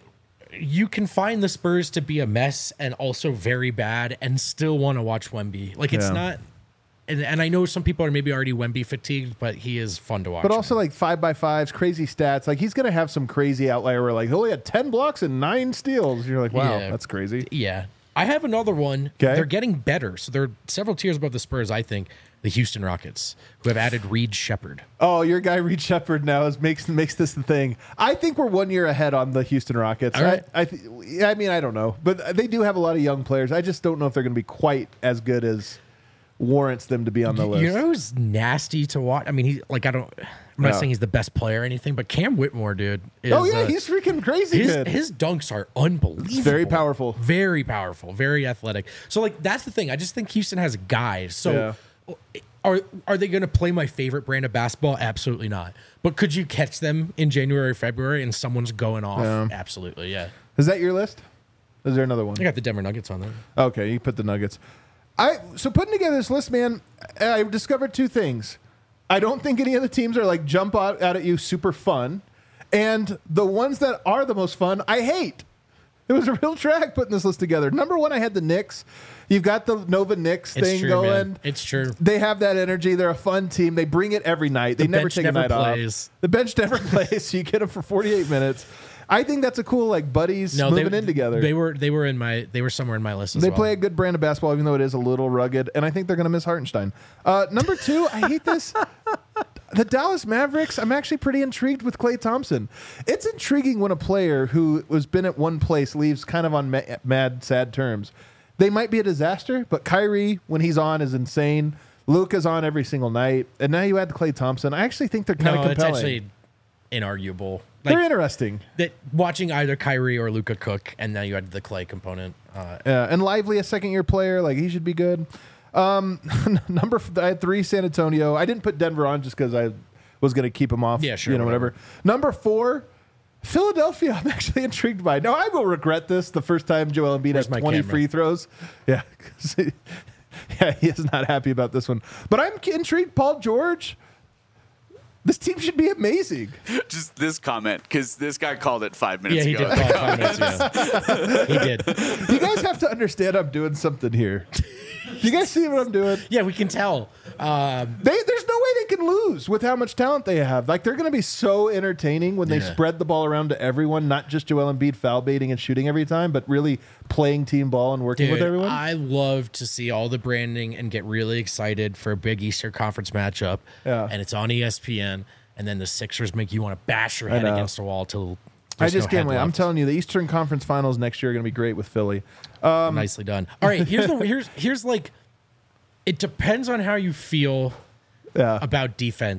Speaker 2: You can find the Spurs to be a mess and also very bad and still want to watch Wemby. Like, it's not... And I know some people are maybe already Wemby fatigued, but he is fun to watch.
Speaker 1: But also like 5x5s, crazy stats. Like he's going to have some crazy outlier where like he only had 10 blocks and 9 steals. You're like, wow, that's crazy.
Speaker 2: Yeah. I have another one.
Speaker 1: Okay.
Speaker 2: They're getting better. So they're several tiers above the Spurs, I think. The Houston Rockets, who have added Reed Shepherd.
Speaker 1: Oh, your guy Reed Shepherd now makes this the thing. I think we're 1 year ahead on the Houston Rockets.
Speaker 2: All right.
Speaker 1: I mean, I don't know. But they do have a lot of young players. I just don't know if they're going to be quite as good as warrants them to be on the list.
Speaker 2: You know who's nasty to watch? I mean, I'm not saying he's the best player or anything, but Cam Whitmore, dude. Is,
Speaker 1: he's freaking crazy good.
Speaker 2: His dunks are unbelievable.
Speaker 1: It's very powerful.
Speaker 2: Very powerful. Very athletic. So, like, that's the thing. I just think Houston has guys. So, are they going to play my favorite brand of basketball? Absolutely not. But could you catch them in January, February, and someone's going off? Absolutely, yeah.
Speaker 1: Is that your list? Is there another one?
Speaker 2: I got the Denver Nuggets on there.
Speaker 1: Okay, you put the Nuggets. So putting together this list, man, I discovered 2 things. I don't think any of the teams are like jump out at you super fun, and the ones that are the most fun, I hate. It was a real drag putting this list together. Number 1, I had the Knicks. You've got the Nova Knicks thing going.
Speaker 2: Man. It's true.
Speaker 1: They have that energy. They're a fun team. They bring it every night. They never take a night off. The bench never plays. So you get them for 48 minutes. I think that's a cool like buddies moving in together.
Speaker 2: They were somewhere in my list as
Speaker 1: They
Speaker 2: well.
Speaker 1: play a good brand of basketball, even though it is a little rugged, and I think they're going to miss Hartenstein. Number 2, I hate this. The Dallas Mavericks, I'm actually pretty intrigued with Klay Thompson. It's intriguing when a player who has been at one place leaves kind of on mad, sad terms. They might be a disaster, but Kyrie, when he's on, is insane. Luka's on every single night, and now you add Klay Thompson. I actually think they're kind of compelling.
Speaker 2: It's actually inarguable.
Speaker 1: They're interesting.
Speaker 2: That watching either Kyrie or Luka cook, and now you add the Klay component.
Speaker 1: And Lively, a second-year player, like he should be good. I had 3, San Antonio. I didn't put Denver on just because I was going to keep him off.
Speaker 2: Yeah, sure.
Speaker 1: Whatever. Number 4, Philadelphia. I'm actually intrigued by. Now I will regret this the first time Joel Embiid has 20 free throws. Yeah, he is not happy about this one. But I'm intrigued. Paul George. This team should be amazing.
Speaker 4: Just this comment, because this guy called it 5 minutes ago.
Speaker 2: Yeah, he did call it 5 minutes ago. He did.
Speaker 1: You guys have to understand I'm doing something here. You guys see what I'm doing?
Speaker 2: Yeah, we can tell.
Speaker 1: There's no way they can lose with how much talent they have. Like, they're going to be so entertaining when they spread the ball around to everyone, not just Joel Embiid foul baiting and shooting every time, but really playing team ball and working with everyone.
Speaker 2: I love to see all the branding and get really excited for a big Eastern Conference matchup.
Speaker 1: Yeah.
Speaker 2: And it's on ESPN, and then the Sixers make you want to bash your head against the wall till
Speaker 1: I just can't wait. I'm telling you, the Eastern Conference Finals next year are going to be great with Philly.
Speaker 2: Nicely done. All right, here's like, it depends on how you feel about defense.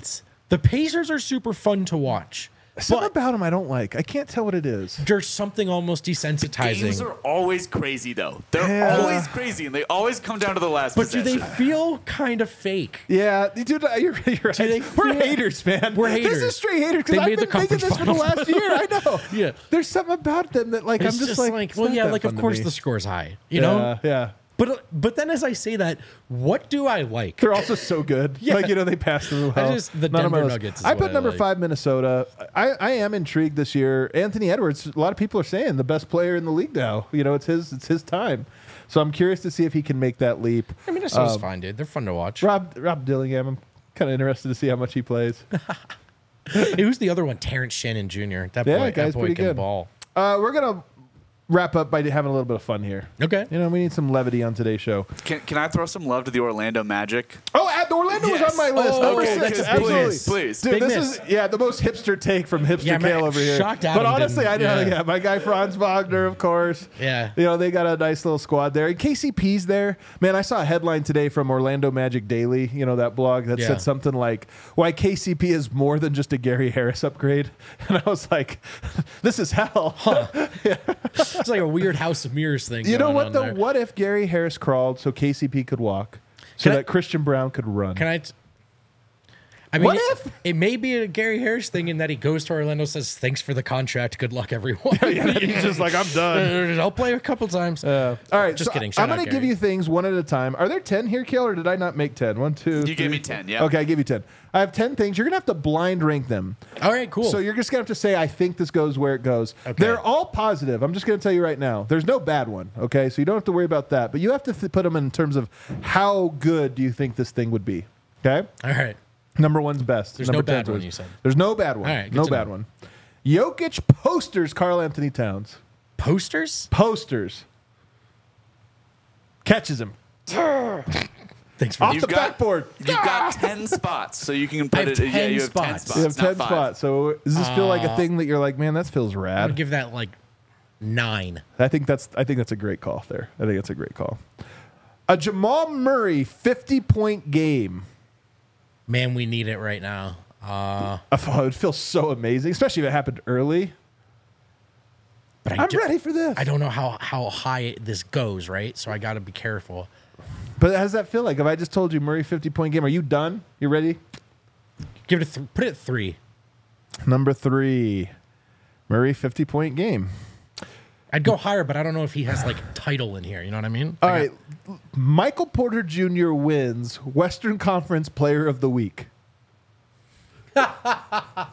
Speaker 2: The Pacers are super fun to watch.
Speaker 1: Something about them I don't like. I can't tell what it is.
Speaker 2: There's something almost desensitizing.
Speaker 4: Games are always crazy, though. They're always crazy, and they always come down to the last possession.
Speaker 2: Do they feel kind of fake?
Speaker 1: Yeah, dude, you're right. We're haters, man.
Speaker 2: We're haters.
Speaker 1: This is straight haters.
Speaker 2: They
Speaker 1: I've
Speaker 2: made
Speaker 1: been
Speaker 2: the
Speaker 1: thinking
Speaker 2: conference
Speaker 1: this for the
Speaker 2: finals.
Speaker 1: last year. I know.
Speaker 2: Yeah.
Speaker 1: There's something about them that, like,
Speaker 2: It's
Speaker 1: I'm just like,
Speaker 2: well,
Speaker 1: it's
Speaker 2: yeah,
Speaker 1: not
Speaker 2: like,
Speaker 1: that
Speaker 2: of
Speaker 1: fun to
Speaker 2: course
Speaker 1: me.
Speaker 2: the score's high, you know?
Speaker 1: Yeah.
Speaker 2: But then as I say that, what do I like?
Speaker 1: They're also so good.
Speaker 2: Yeah.
Speaker 1: Like, they pass through well.
Speaker 2: The
Speaker 1: None of my
Speaker 2: Denver
Speaker 1: list.
Speaker 2: Nuggets is
Speaker 1: I
Speaker 2: what
Speaker 1: put
Speaker 2: I
Speaker 1: number
Speaker 2: like.
Speaker 1: 5 Minnesota. I am intrigued this year. Anthony Edwards, a lot of people are saying the best player in the league now. It's his time. So I'm curious to see if he can make that leap.
Speaker 2: I mean, Minnesota's fine, dude. They're fun to watch.
Speaker 1: Rob Dillingham, I'm kind of interested to see how much he plays.
Speaker 2: Who's the other one? Terrence Shannon Jr. That boy
Speaker 1: guy's pretty
Speaker 2: can
Speaker 1: good.
Speaker 2: ball.
Speaker 1: We're going to wrap up by having a little bit of fun here.
Speaker 2: Okay.
Speaker 1: We need some levity on today's show.
Speaker 4: Can I throw some love to the Orlando Magic?
Speaker 1: Oh, Orlando was on my list.
Speaker 2: Oh,
Speaker 1: Number
Speaker 2: okay,
Speaker 1: 6.
Speaker 2: that's a big
Speaker 1: Absolutely.
Speaker 2: miss.
Speaker 4: Please.
Speaker 1: Dude,
Speaker 2: Big
Speaker 1: this
Speaker 2: miss.
Speaker 1: is the most hipster take from Hipster
Speaker 2: Yeah, man,
Speaker 1: Kale over here.
Speaker 2: shocked
Speaker 1: But
Speaker 2: Adam
Speaker 1: honestly, I
Speaker 2: didn't-
Speaker 1: know, my guy Franz Wagner, of course.
Speaker 2: Yeah.
Speaker 1: They got a nice little squad there. And KCP's there. Man, I saw a headline today from Orlando Magic Daily, that blog that said something like, why KCP is more than just a Gary Harris upgrade. And I was like, this is hell.
Speaker 2: Huh. It's like a weird House of Mirrors thing.
Speaker 1: You know
Speaker 2: going
Speaker 1: what,
Speaker 2: on
Speaker 1: though?
Speaker 2: there.
Speaker 1: What if Gary Harris crawled so KCP could walk, so that Christian Brown could run?
Speaker 2: I mean,
Speaker 1: What if?
Speaker 2: It may be a Gary Harris thing in that he goes to Orlando, says, thanks for the contract. Good luck, everyone.
Speaker 1: He's just like, I'm done.
Speaker 2: I'll play a couple times.
Speaker 1: All right,
Speaker 2: Just kidding.
Speaker 1: I'm
Speaker 2: Shout out,
Speaker 1: going to give
Speaker 2: Gary.
Speaker 1: you things one at a time. Are there 10 here, Kale, or did I not make 10? 1, 2,
Speaker 4: You gave me 10, yeah.
Speaker 1: Okay, I give you 10. I have 10 things. You're going to have to blind rank them.
Speaker 2: All right, cool.
Speaker 1: So you're just going to have to say, I think this goes where it goes.
Speaker 2: Okay.
Speaker 1: They're all positive. I'm just going to tell you right now. There's no bad one, okay? So you don't have to worry about that. But you have to put them in terms of how good do you think this thing would be, okay?
Speaker 2: All right.
Speaker 1: Number 1's best.
Speaker 2: There's
Speaker 1: Number
Speaker 2: no bad
Speaker 1: 10's
Speaker 2: one,
Speaker 1: worst.
Speaker 2: you said.
Speaker 1: There's no bad one.
Speaker 2: All right, good
Speaker 1: no
Speaker 2: to
Speaker 1: bad
Speaker 2: know.
Speaker 1: one. Jokic posters Karl Anthony Towns.
Speaker 2: Posters?
Speaker 1: Posters. Catches him.
Speaker 2: Thanks for
Speaker 1: Off the backboard.
Speaker 4: You've got 10 spots, so you can
Speaker 2: I
Speaker 4: put
Speaker 2: have
Speaker 4: it.
Speaker 2: 10
Speaker 4: Yeah, you have 10
Speaker 2: spots.
Speaker 4: spots.
Speaker 1: You have 10
Speaker 4: not 5.
Speaker 1: spots. So does this feel like a thing that you're like, man, that feels
Speaker 2: I'm
Speaker 1: rad?
Speaker 2: going to give that like 9.
Speaker 1: I think that's a great call there. I think it's a great call. A Jamal Murray 50-point game.
Speaker 2: Man, we need it right now.
Speaker 1: I thought it would feel so amazing, especially if it happened early.
Speaker 2: But
Speaker 1: I'm ready for this.
Speaker 2: I don't know how high this goes, right? So I got to be careful.
Speaker 1: But how does that feel like? If I just told you Murray 50-point game, are you done? You ready?
Speaker 2: Give it put it at 3.
Speaker 1: Number 3, Murray 50-point game.
Speaker 2: I'd go higher, but I don't know if he has like title in here. You know what I mean?
Speaker 1: All right. Michael Porter Jr. wins Western Conference Player of the Week. Not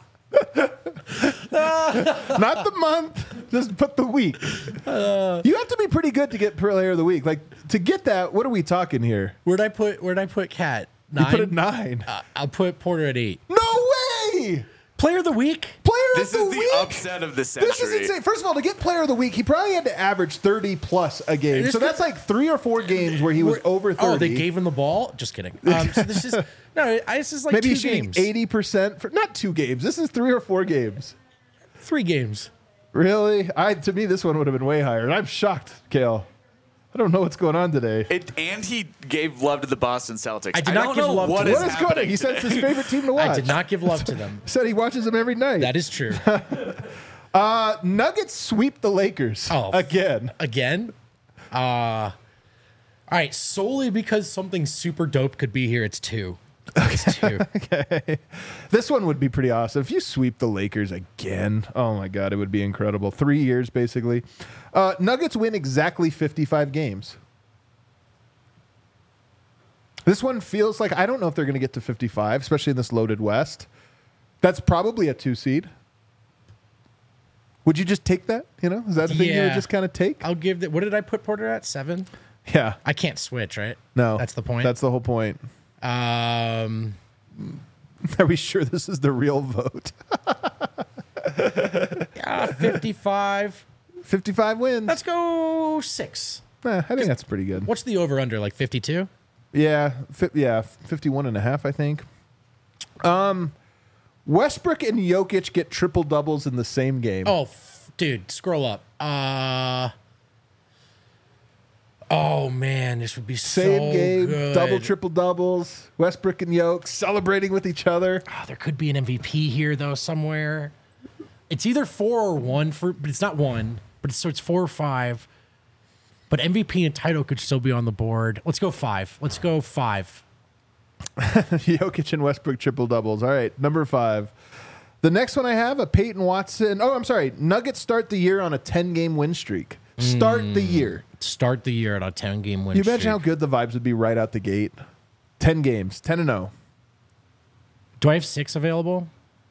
Speaker 1: the month, just put the week. You have to be pretty good to get Player of the Week. Like, to get that, what are we talking here?
Speaker 2: Where'd I put Cat? 9.
Speaker 1: You put it 9.
Speaker 2: I'll put Porter at 8.
Speaker 1: No way!
Speaker 2: Player of the week?
Speaker 1: Player
Speaker 4: This
Speaker 1: of the
Speaker 4: is the
Speaker 1: week?
Speaker 4: upset of the century.
Speaker 1: This is insane. First of all, to get Player of the Week, he probably had to average 30 plus a game.
Speaker 2: This
Speaker 1: So that's like 3 or 4 games where he was over 30.
Speaker 2: Oh, they gave him the ball? Just kidding. So this is this is like
Speaker 1: Maybe
Speaker 2: 2
Speaker 1: he's shooting
Speaker 2: games.
Speaker 1: 80% for not 2 games. This is 3 or 4 games.
Speaker 2: 3 games.
Speaker 1: Really? To me, this one would have been way higher. And I'm shocked, Kale. I don't know what's going on today.
Speaker 4: And he gave love to the Boston Celtics.
Speaker 2: I did not
Speaker 4: don't
Speaker 2: give
Speaker 4: know
Speaker 2: love to
Speaker 4: what
Speaker 2: them.
Speaker 1: What is going on? He said it's his favorite team to watch.
Speaker 2: I did not give love to them.
Speaker 1: He said he watches them every night.
Speaker 2: That is true.
Speaker 1: Nuggets sweep the Lakers again.
Speaker 2: Again? All right, solely because something super dope could be here, it's 2. It's 2.
Speaker 1: Okay. This one would be pretty awesome. If you sweep the Lakers again, oh my God, it would be incredible. 3 years, basically. Nuggets win exactly 55 games. This one feels like, I don't know if they're going to get to 55, especially in this loaded West. That's probably a 2 seed. Would you just take that? Is that a thing you would just kind of take?
Speaker 2: I'll give that. What did I put Porter at? 7?
Speaker 1: Yeah.
Speaker 2: I can't switch, right?
Speaker 1: No.
Speaker 2: That's the point.
Speaker 1: That's the whole point. Are we sure this is the real vote?
Speaker 2: 55.
Speaker 1: 55 wins.
Speaker 2: Let's go 6.
Speaker 1: I think that's pretty good.
Speaker 2: What's the over under? Like 52?
Speaker 1: Yeah, 51 and a half, I think. Westbrook and Jokic get triple doubles in the same game.
Speaker 2: Oh, dude, scroll up. Oh man, this would be
Speaker 1: Same
Speaker 2: so
Speaker 1: game,
Speaker 2: good.
Speaker 1: double, triple doubles. Westbrook and Yoke celebrating with each other.
Speaker 2: Oh, there could be an MVP here though somewhere. It's either 4 or 1 but it's not 1. But so it's 4 or 5. But MVP and title could still be on the board. Let's go 5. Let's go 5.
Speaker 1: Jokic and Westbrook triple doubles. All right, number 5. The next one I have a Peyton Watson. Oh, I'm sorry. Nuggets start the year on a 10-game win streak. Start the year.
Speaker 2: Start the year at a 10-game win
Speaker 1: Can you
Speaker 2: streak.
Speaker 1: imagine how good the vibes would be right out the gate? 10 games, 10-0.
Speaker 2: Do I have 6 available?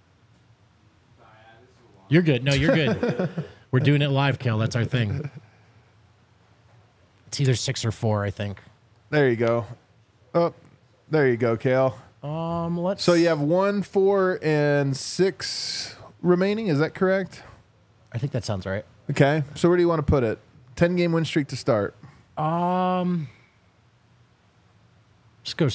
Speaker 2: You're good. No, you're good. We're doing it live, Kale. That's our thing. It's either 6 or 4, I think.
Speaker 1: There you go. Oh, there you go, Kale.
Speaker 2: Let's.
Speaker 1: So you have 1, 4, and 6 remaining. Is that correct?
Speaker 2: I think that sounds right.
Speaker 1: Okay. So where do you want to put it? 10-game win streak to start.
Speaker 2: Let's go.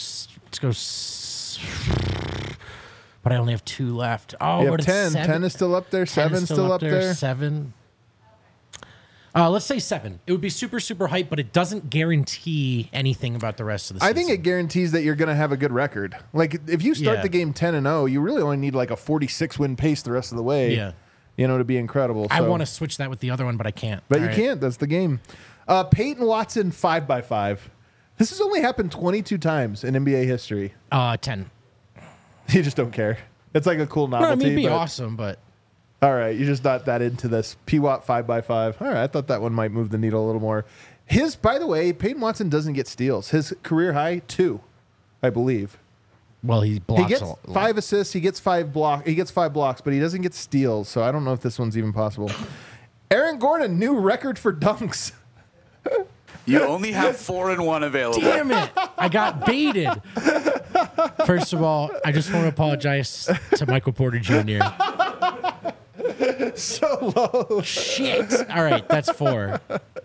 Speaker 2: But I only have 2 left. Oh,
Speaker 1: You
Speaker 2: but
Speaker 1: have 10.
Speaker 2: it's 7.
Speaker 1: 10 is still up there.
Speaker 2: 10 is
Speaker 1: 7 still up there.
Speaker 2: 7. Let's say 7. It would be super, super hype, but it doesn't guarantee anything about the rest of the season.
Speaker 1: I think it guarantees that you're going to have a good record. Like if you start
Speaker 2: Yeah.
Speaker 1: the game 10-0, you really only need like a 46 win pace the rest of the way.
Speaker 2: Yeah.
Speaker 1: You know, to be incredible.
Speaker 2: I
Speaker 1: So-
Speaker 2: want to switch that with the other one, but I can't.
Speaker 1: But
Speaker 2: All
Speaker 1: you
Speaker 2: right.
Speaker 1: can't. That's the game. Peyton Watson 5x5. This has only happened 22 times in NBA history.
Speaker 2: 10.
Speaker 1: You just don't care. It's like a cool
Speaker 2: No,
Speaker 1: novelty.
Speaker 2: I mean, it'd be
Speaker 1: but-
Speaker 2: awesome, but
Speaker 1: All right, you're just not that into this. P-Watt 5x5. All right, I thought that one might move the needle a little more. By the way, Peyton Watson doesn't get steals. His career high, 2, I believe.
Speaker 2: well, he blocks
Speaker 1: He gets
Speaker 2: a lot.
Speaker 1: 5 assists. He gets 5 blocks, but he doesn't get steals. So I don't know if this one's even possible. Aaron Gordon, new record for dunks.
Speaker 4: You only have 4 and 1 available.
Speaker 2: Damn it! I got baited. First of all, I just want to apologize to Michael Porter Jr.
Speaker 1: So low.
Speaker 2: Shit. All right, that's 4.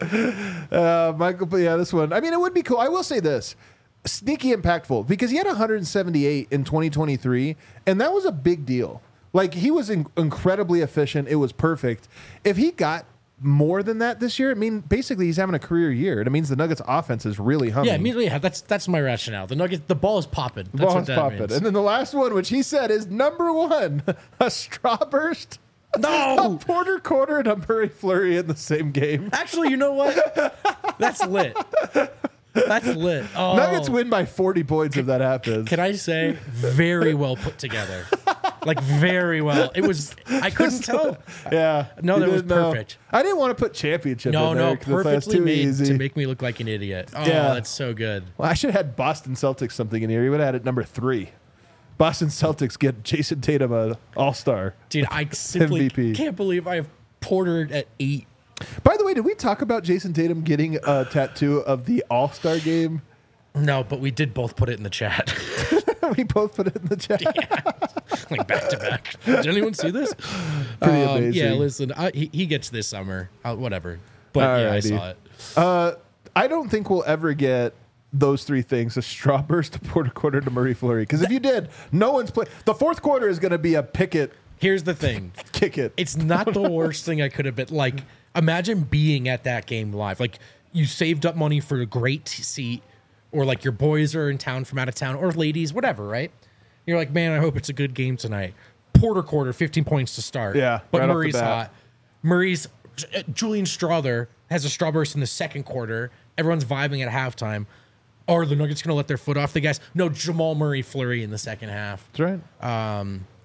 Speaker 1: Michael, but yeah, this one. I mean, it would be cool. I will say this. Sneaky impactful because he had 178 in 2023, and that was a big deal. Like, he was incredibly efficient. It was perfect. If he got more than that this year, I mean, basically he's having a career year. And it means the Nuggets offense is really humming.
Speaker 2: Yeah, immediately. That's my rationale. The Nuggets, the ball is popping. That's
Speaker 1: Ball
Speaker 2: what
Speaker 1: is
Speaker 2: that
Speaker 1: popping.
Speaker 2: means.
Speaker 1: And then the last one, which he said is number 1, a straw burst. A
Speaker 2: No.
Speaker 1: Porter Quarter and a Murray Fleury in the same game.
Speaker 2: Actually, you know what? That's lit. That's lit. Oh.
Speaker 1: Nuggets win by 40 points if that happens.
Speaker 2: Can I say, very well put together. Like, very well. It was, I couldn't tell.
Speaker 1: Yeah.
Speaker 2: No,
Speaker 1: you
Speaker 2: that was
Speaker 1: didn't know.
Speaker 2: perfect.
Speaker 1: I didn't want to put championship
Speaker 2: No,
Speaker 1: in there
Speaker 2: no,
Speaker 1: 'cause I thought it was
Speaker 2: perfectly
Speaker 1: too
Speaker 2: made
Speaker 1: easy.
Speaker 2: to make me look like an idiot. Oh,
Speaker 1: Yeah.
Speaker 2: that's so good.
Speaker 1: Well, I should have had Boston Celtics something in here. He would have had it number 3. Boston Celtics get Jason Tatum an all-star.
Speaker 2: Dude, I simply
Speaker 1: MVP.
Speaker 2: can't believe I have Porter at 8.
Speaker 1: By the way, did we talk about Jason Tatum getting a tattoo of the all-star game?
Speaker 2: No, but we did both put it in the chat.
Speaker 1: We both put it in the chat.
Speaker 2: Like back to back. Did anyone see this?
Speaker 1: Pretty amazing.
Speaker 2: Yeah, listen, he gets this summer. Whatever. But yeah, I
Speaker 1: Alrighty.
Speaker 2: saw it.
Speaker 1: I don't think we'll ever get those 3 things: a straw burst, a Porter Quarter, to Murray Fleury. Because if you did, no one's playing. The fourth quarter is going to be a Pickett
Speaker 2: Here's the thing.
Speaker 1: kick it.
Speaker 2: It's not the worst thing I could have been. Like, imagine being at that game live. Like, you saved up money for a great seat, or like your boys are in town from out of town, or ladies, whatever, right? You're like, man, I hope it's a good game tonight. Porter Quarter, 15 points to start.
Speaker 1: Yeah,
Speaker 2: But
Speaker 1: right off the
Speaker 2: Murray's
Speaker 1: bat.
Speaker 2: hot. Murray's Julian Strother has a straw burst in the second quarter. Everyone's vibing at halftime. Are the Nuggets going to let their foot off the gas? No, Jamal Murray Fleury in the second half.
Speaker 1: That's right.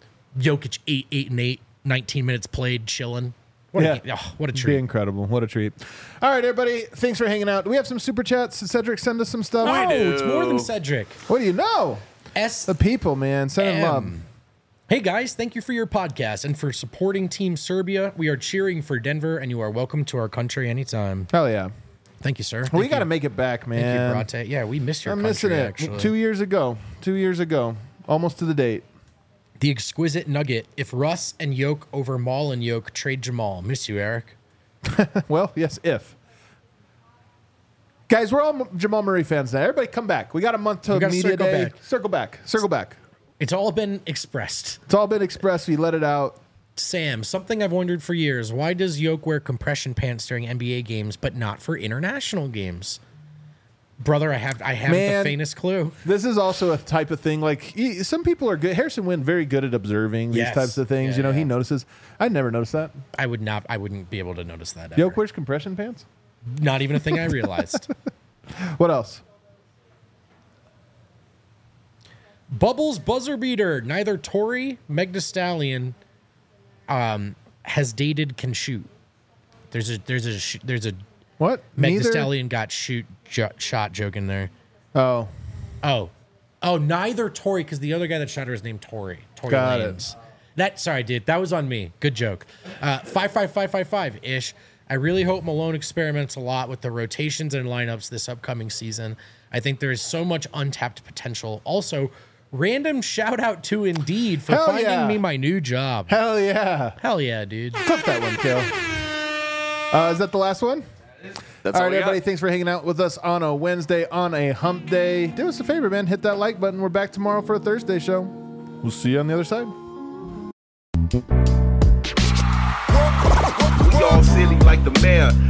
Speaker 2: Jokic 8 and 8, 19 minutes played, chilling. What a
Speaker 1: It'd
Speaker 2: treat.
Speaker 1: be incredible. What a treat. All right, everybody. Thanks for hanging out. Do we have some super chats? Did Cedric send us some stuff?
Speaker 2: Oh,
Speaker 4: do.
Speaker 2: it's more than Cedric.
Speaker 1: What do you know? The people, man. Send them up.
Speaker 2: Hey guys, thank you for your podcast and for supporting Team Serbia. We are cheering for Denver, and you are welcome to our country anytime.
Speaker 1: Hell yeah.
Speaker 2: Thank you, sir.
Speaker 1: We
Speaker 2: Thank
Speaker 1: got to
Speaker 2: you.
Speaker 1: make it back,
Speaker 2: Thank
Speaker 1: man.
Speaker 2: you, Brate. Yeah, we missed your
Speaker 1: I'm
Speaker 2: country,
Speaker 1: missing it.
Speaker 2: actually.
Speaker 1: 2 years ago. 2 years ago. Almost to the date.
Speaker 2: The exquisite nugget. If Russ and Yoke over Maul and Yoke, trade Jamal. Miss you, Eric.
Speaker 1: Well, yes, if. Guys, we're all Jamal Murray fans now. Everybody come back. We got a month till
Speaker 2: gotta
Speaker 1: media
Speaker 2: circle
Speaker 1: day.
Speaker 2: back.
Speaker 1: Circle back. Circle back.
Speaker 2: It's all been expressed.
Speaker 1: It's all been expressed. We let it out.
Speaker 2: Sam, something I've wondered for years. Why does Yoke wear compression pants during NBA games, but not for international games? Brother, I have the faintest clue.
Speaker 1: This is also a type of thing. Like some people are good. Harrison Wind very good at observing these types of things. He notices. I never noticed that.
Speaker 2: I wouldn't be able to notice that. Ever.
Speaker 1: Yoke wears compression pants.
Speaker 2: Not even a thing I realized.
Speaker 1: What else?
Speaker 2: Bubbles buzzer beater. Neither Tori, Meg Thee Stallion, has dated, can shoot. There's a
Speaker 1: what?
Speaker 2: Meg Thee Stallion got shot joke in there.
Speaker 1: Oh.
Speaker 2: Neither Tori, because the other guy that shot her is named Tori. Tori
Speaker 1: Got
Speaker 2: Lanez. Sorry, dude. That was on me. Good joke. 55555-ish. I really hope Malone experiments a lot with the rotations and lineups this upcoming season. I think there is so much untapped potential. Also, random shout out to Indeed for finding me my new job.
Speaker 1: Hell yeah.
Speaker 2: Hell yeah, dude.
Speaker 1: Clip that one, Kill. Is that the last one?
Speaker 4: That's
Speaker 1: all right, everybody. Thanks for hanging out with us on a Wednesday, on a hump day. Do us a favor, man. Hit that like button. We're back tomorrow for a Thursday show. We'll see you on the other side.
Speaker 5: We all silly like the mayor.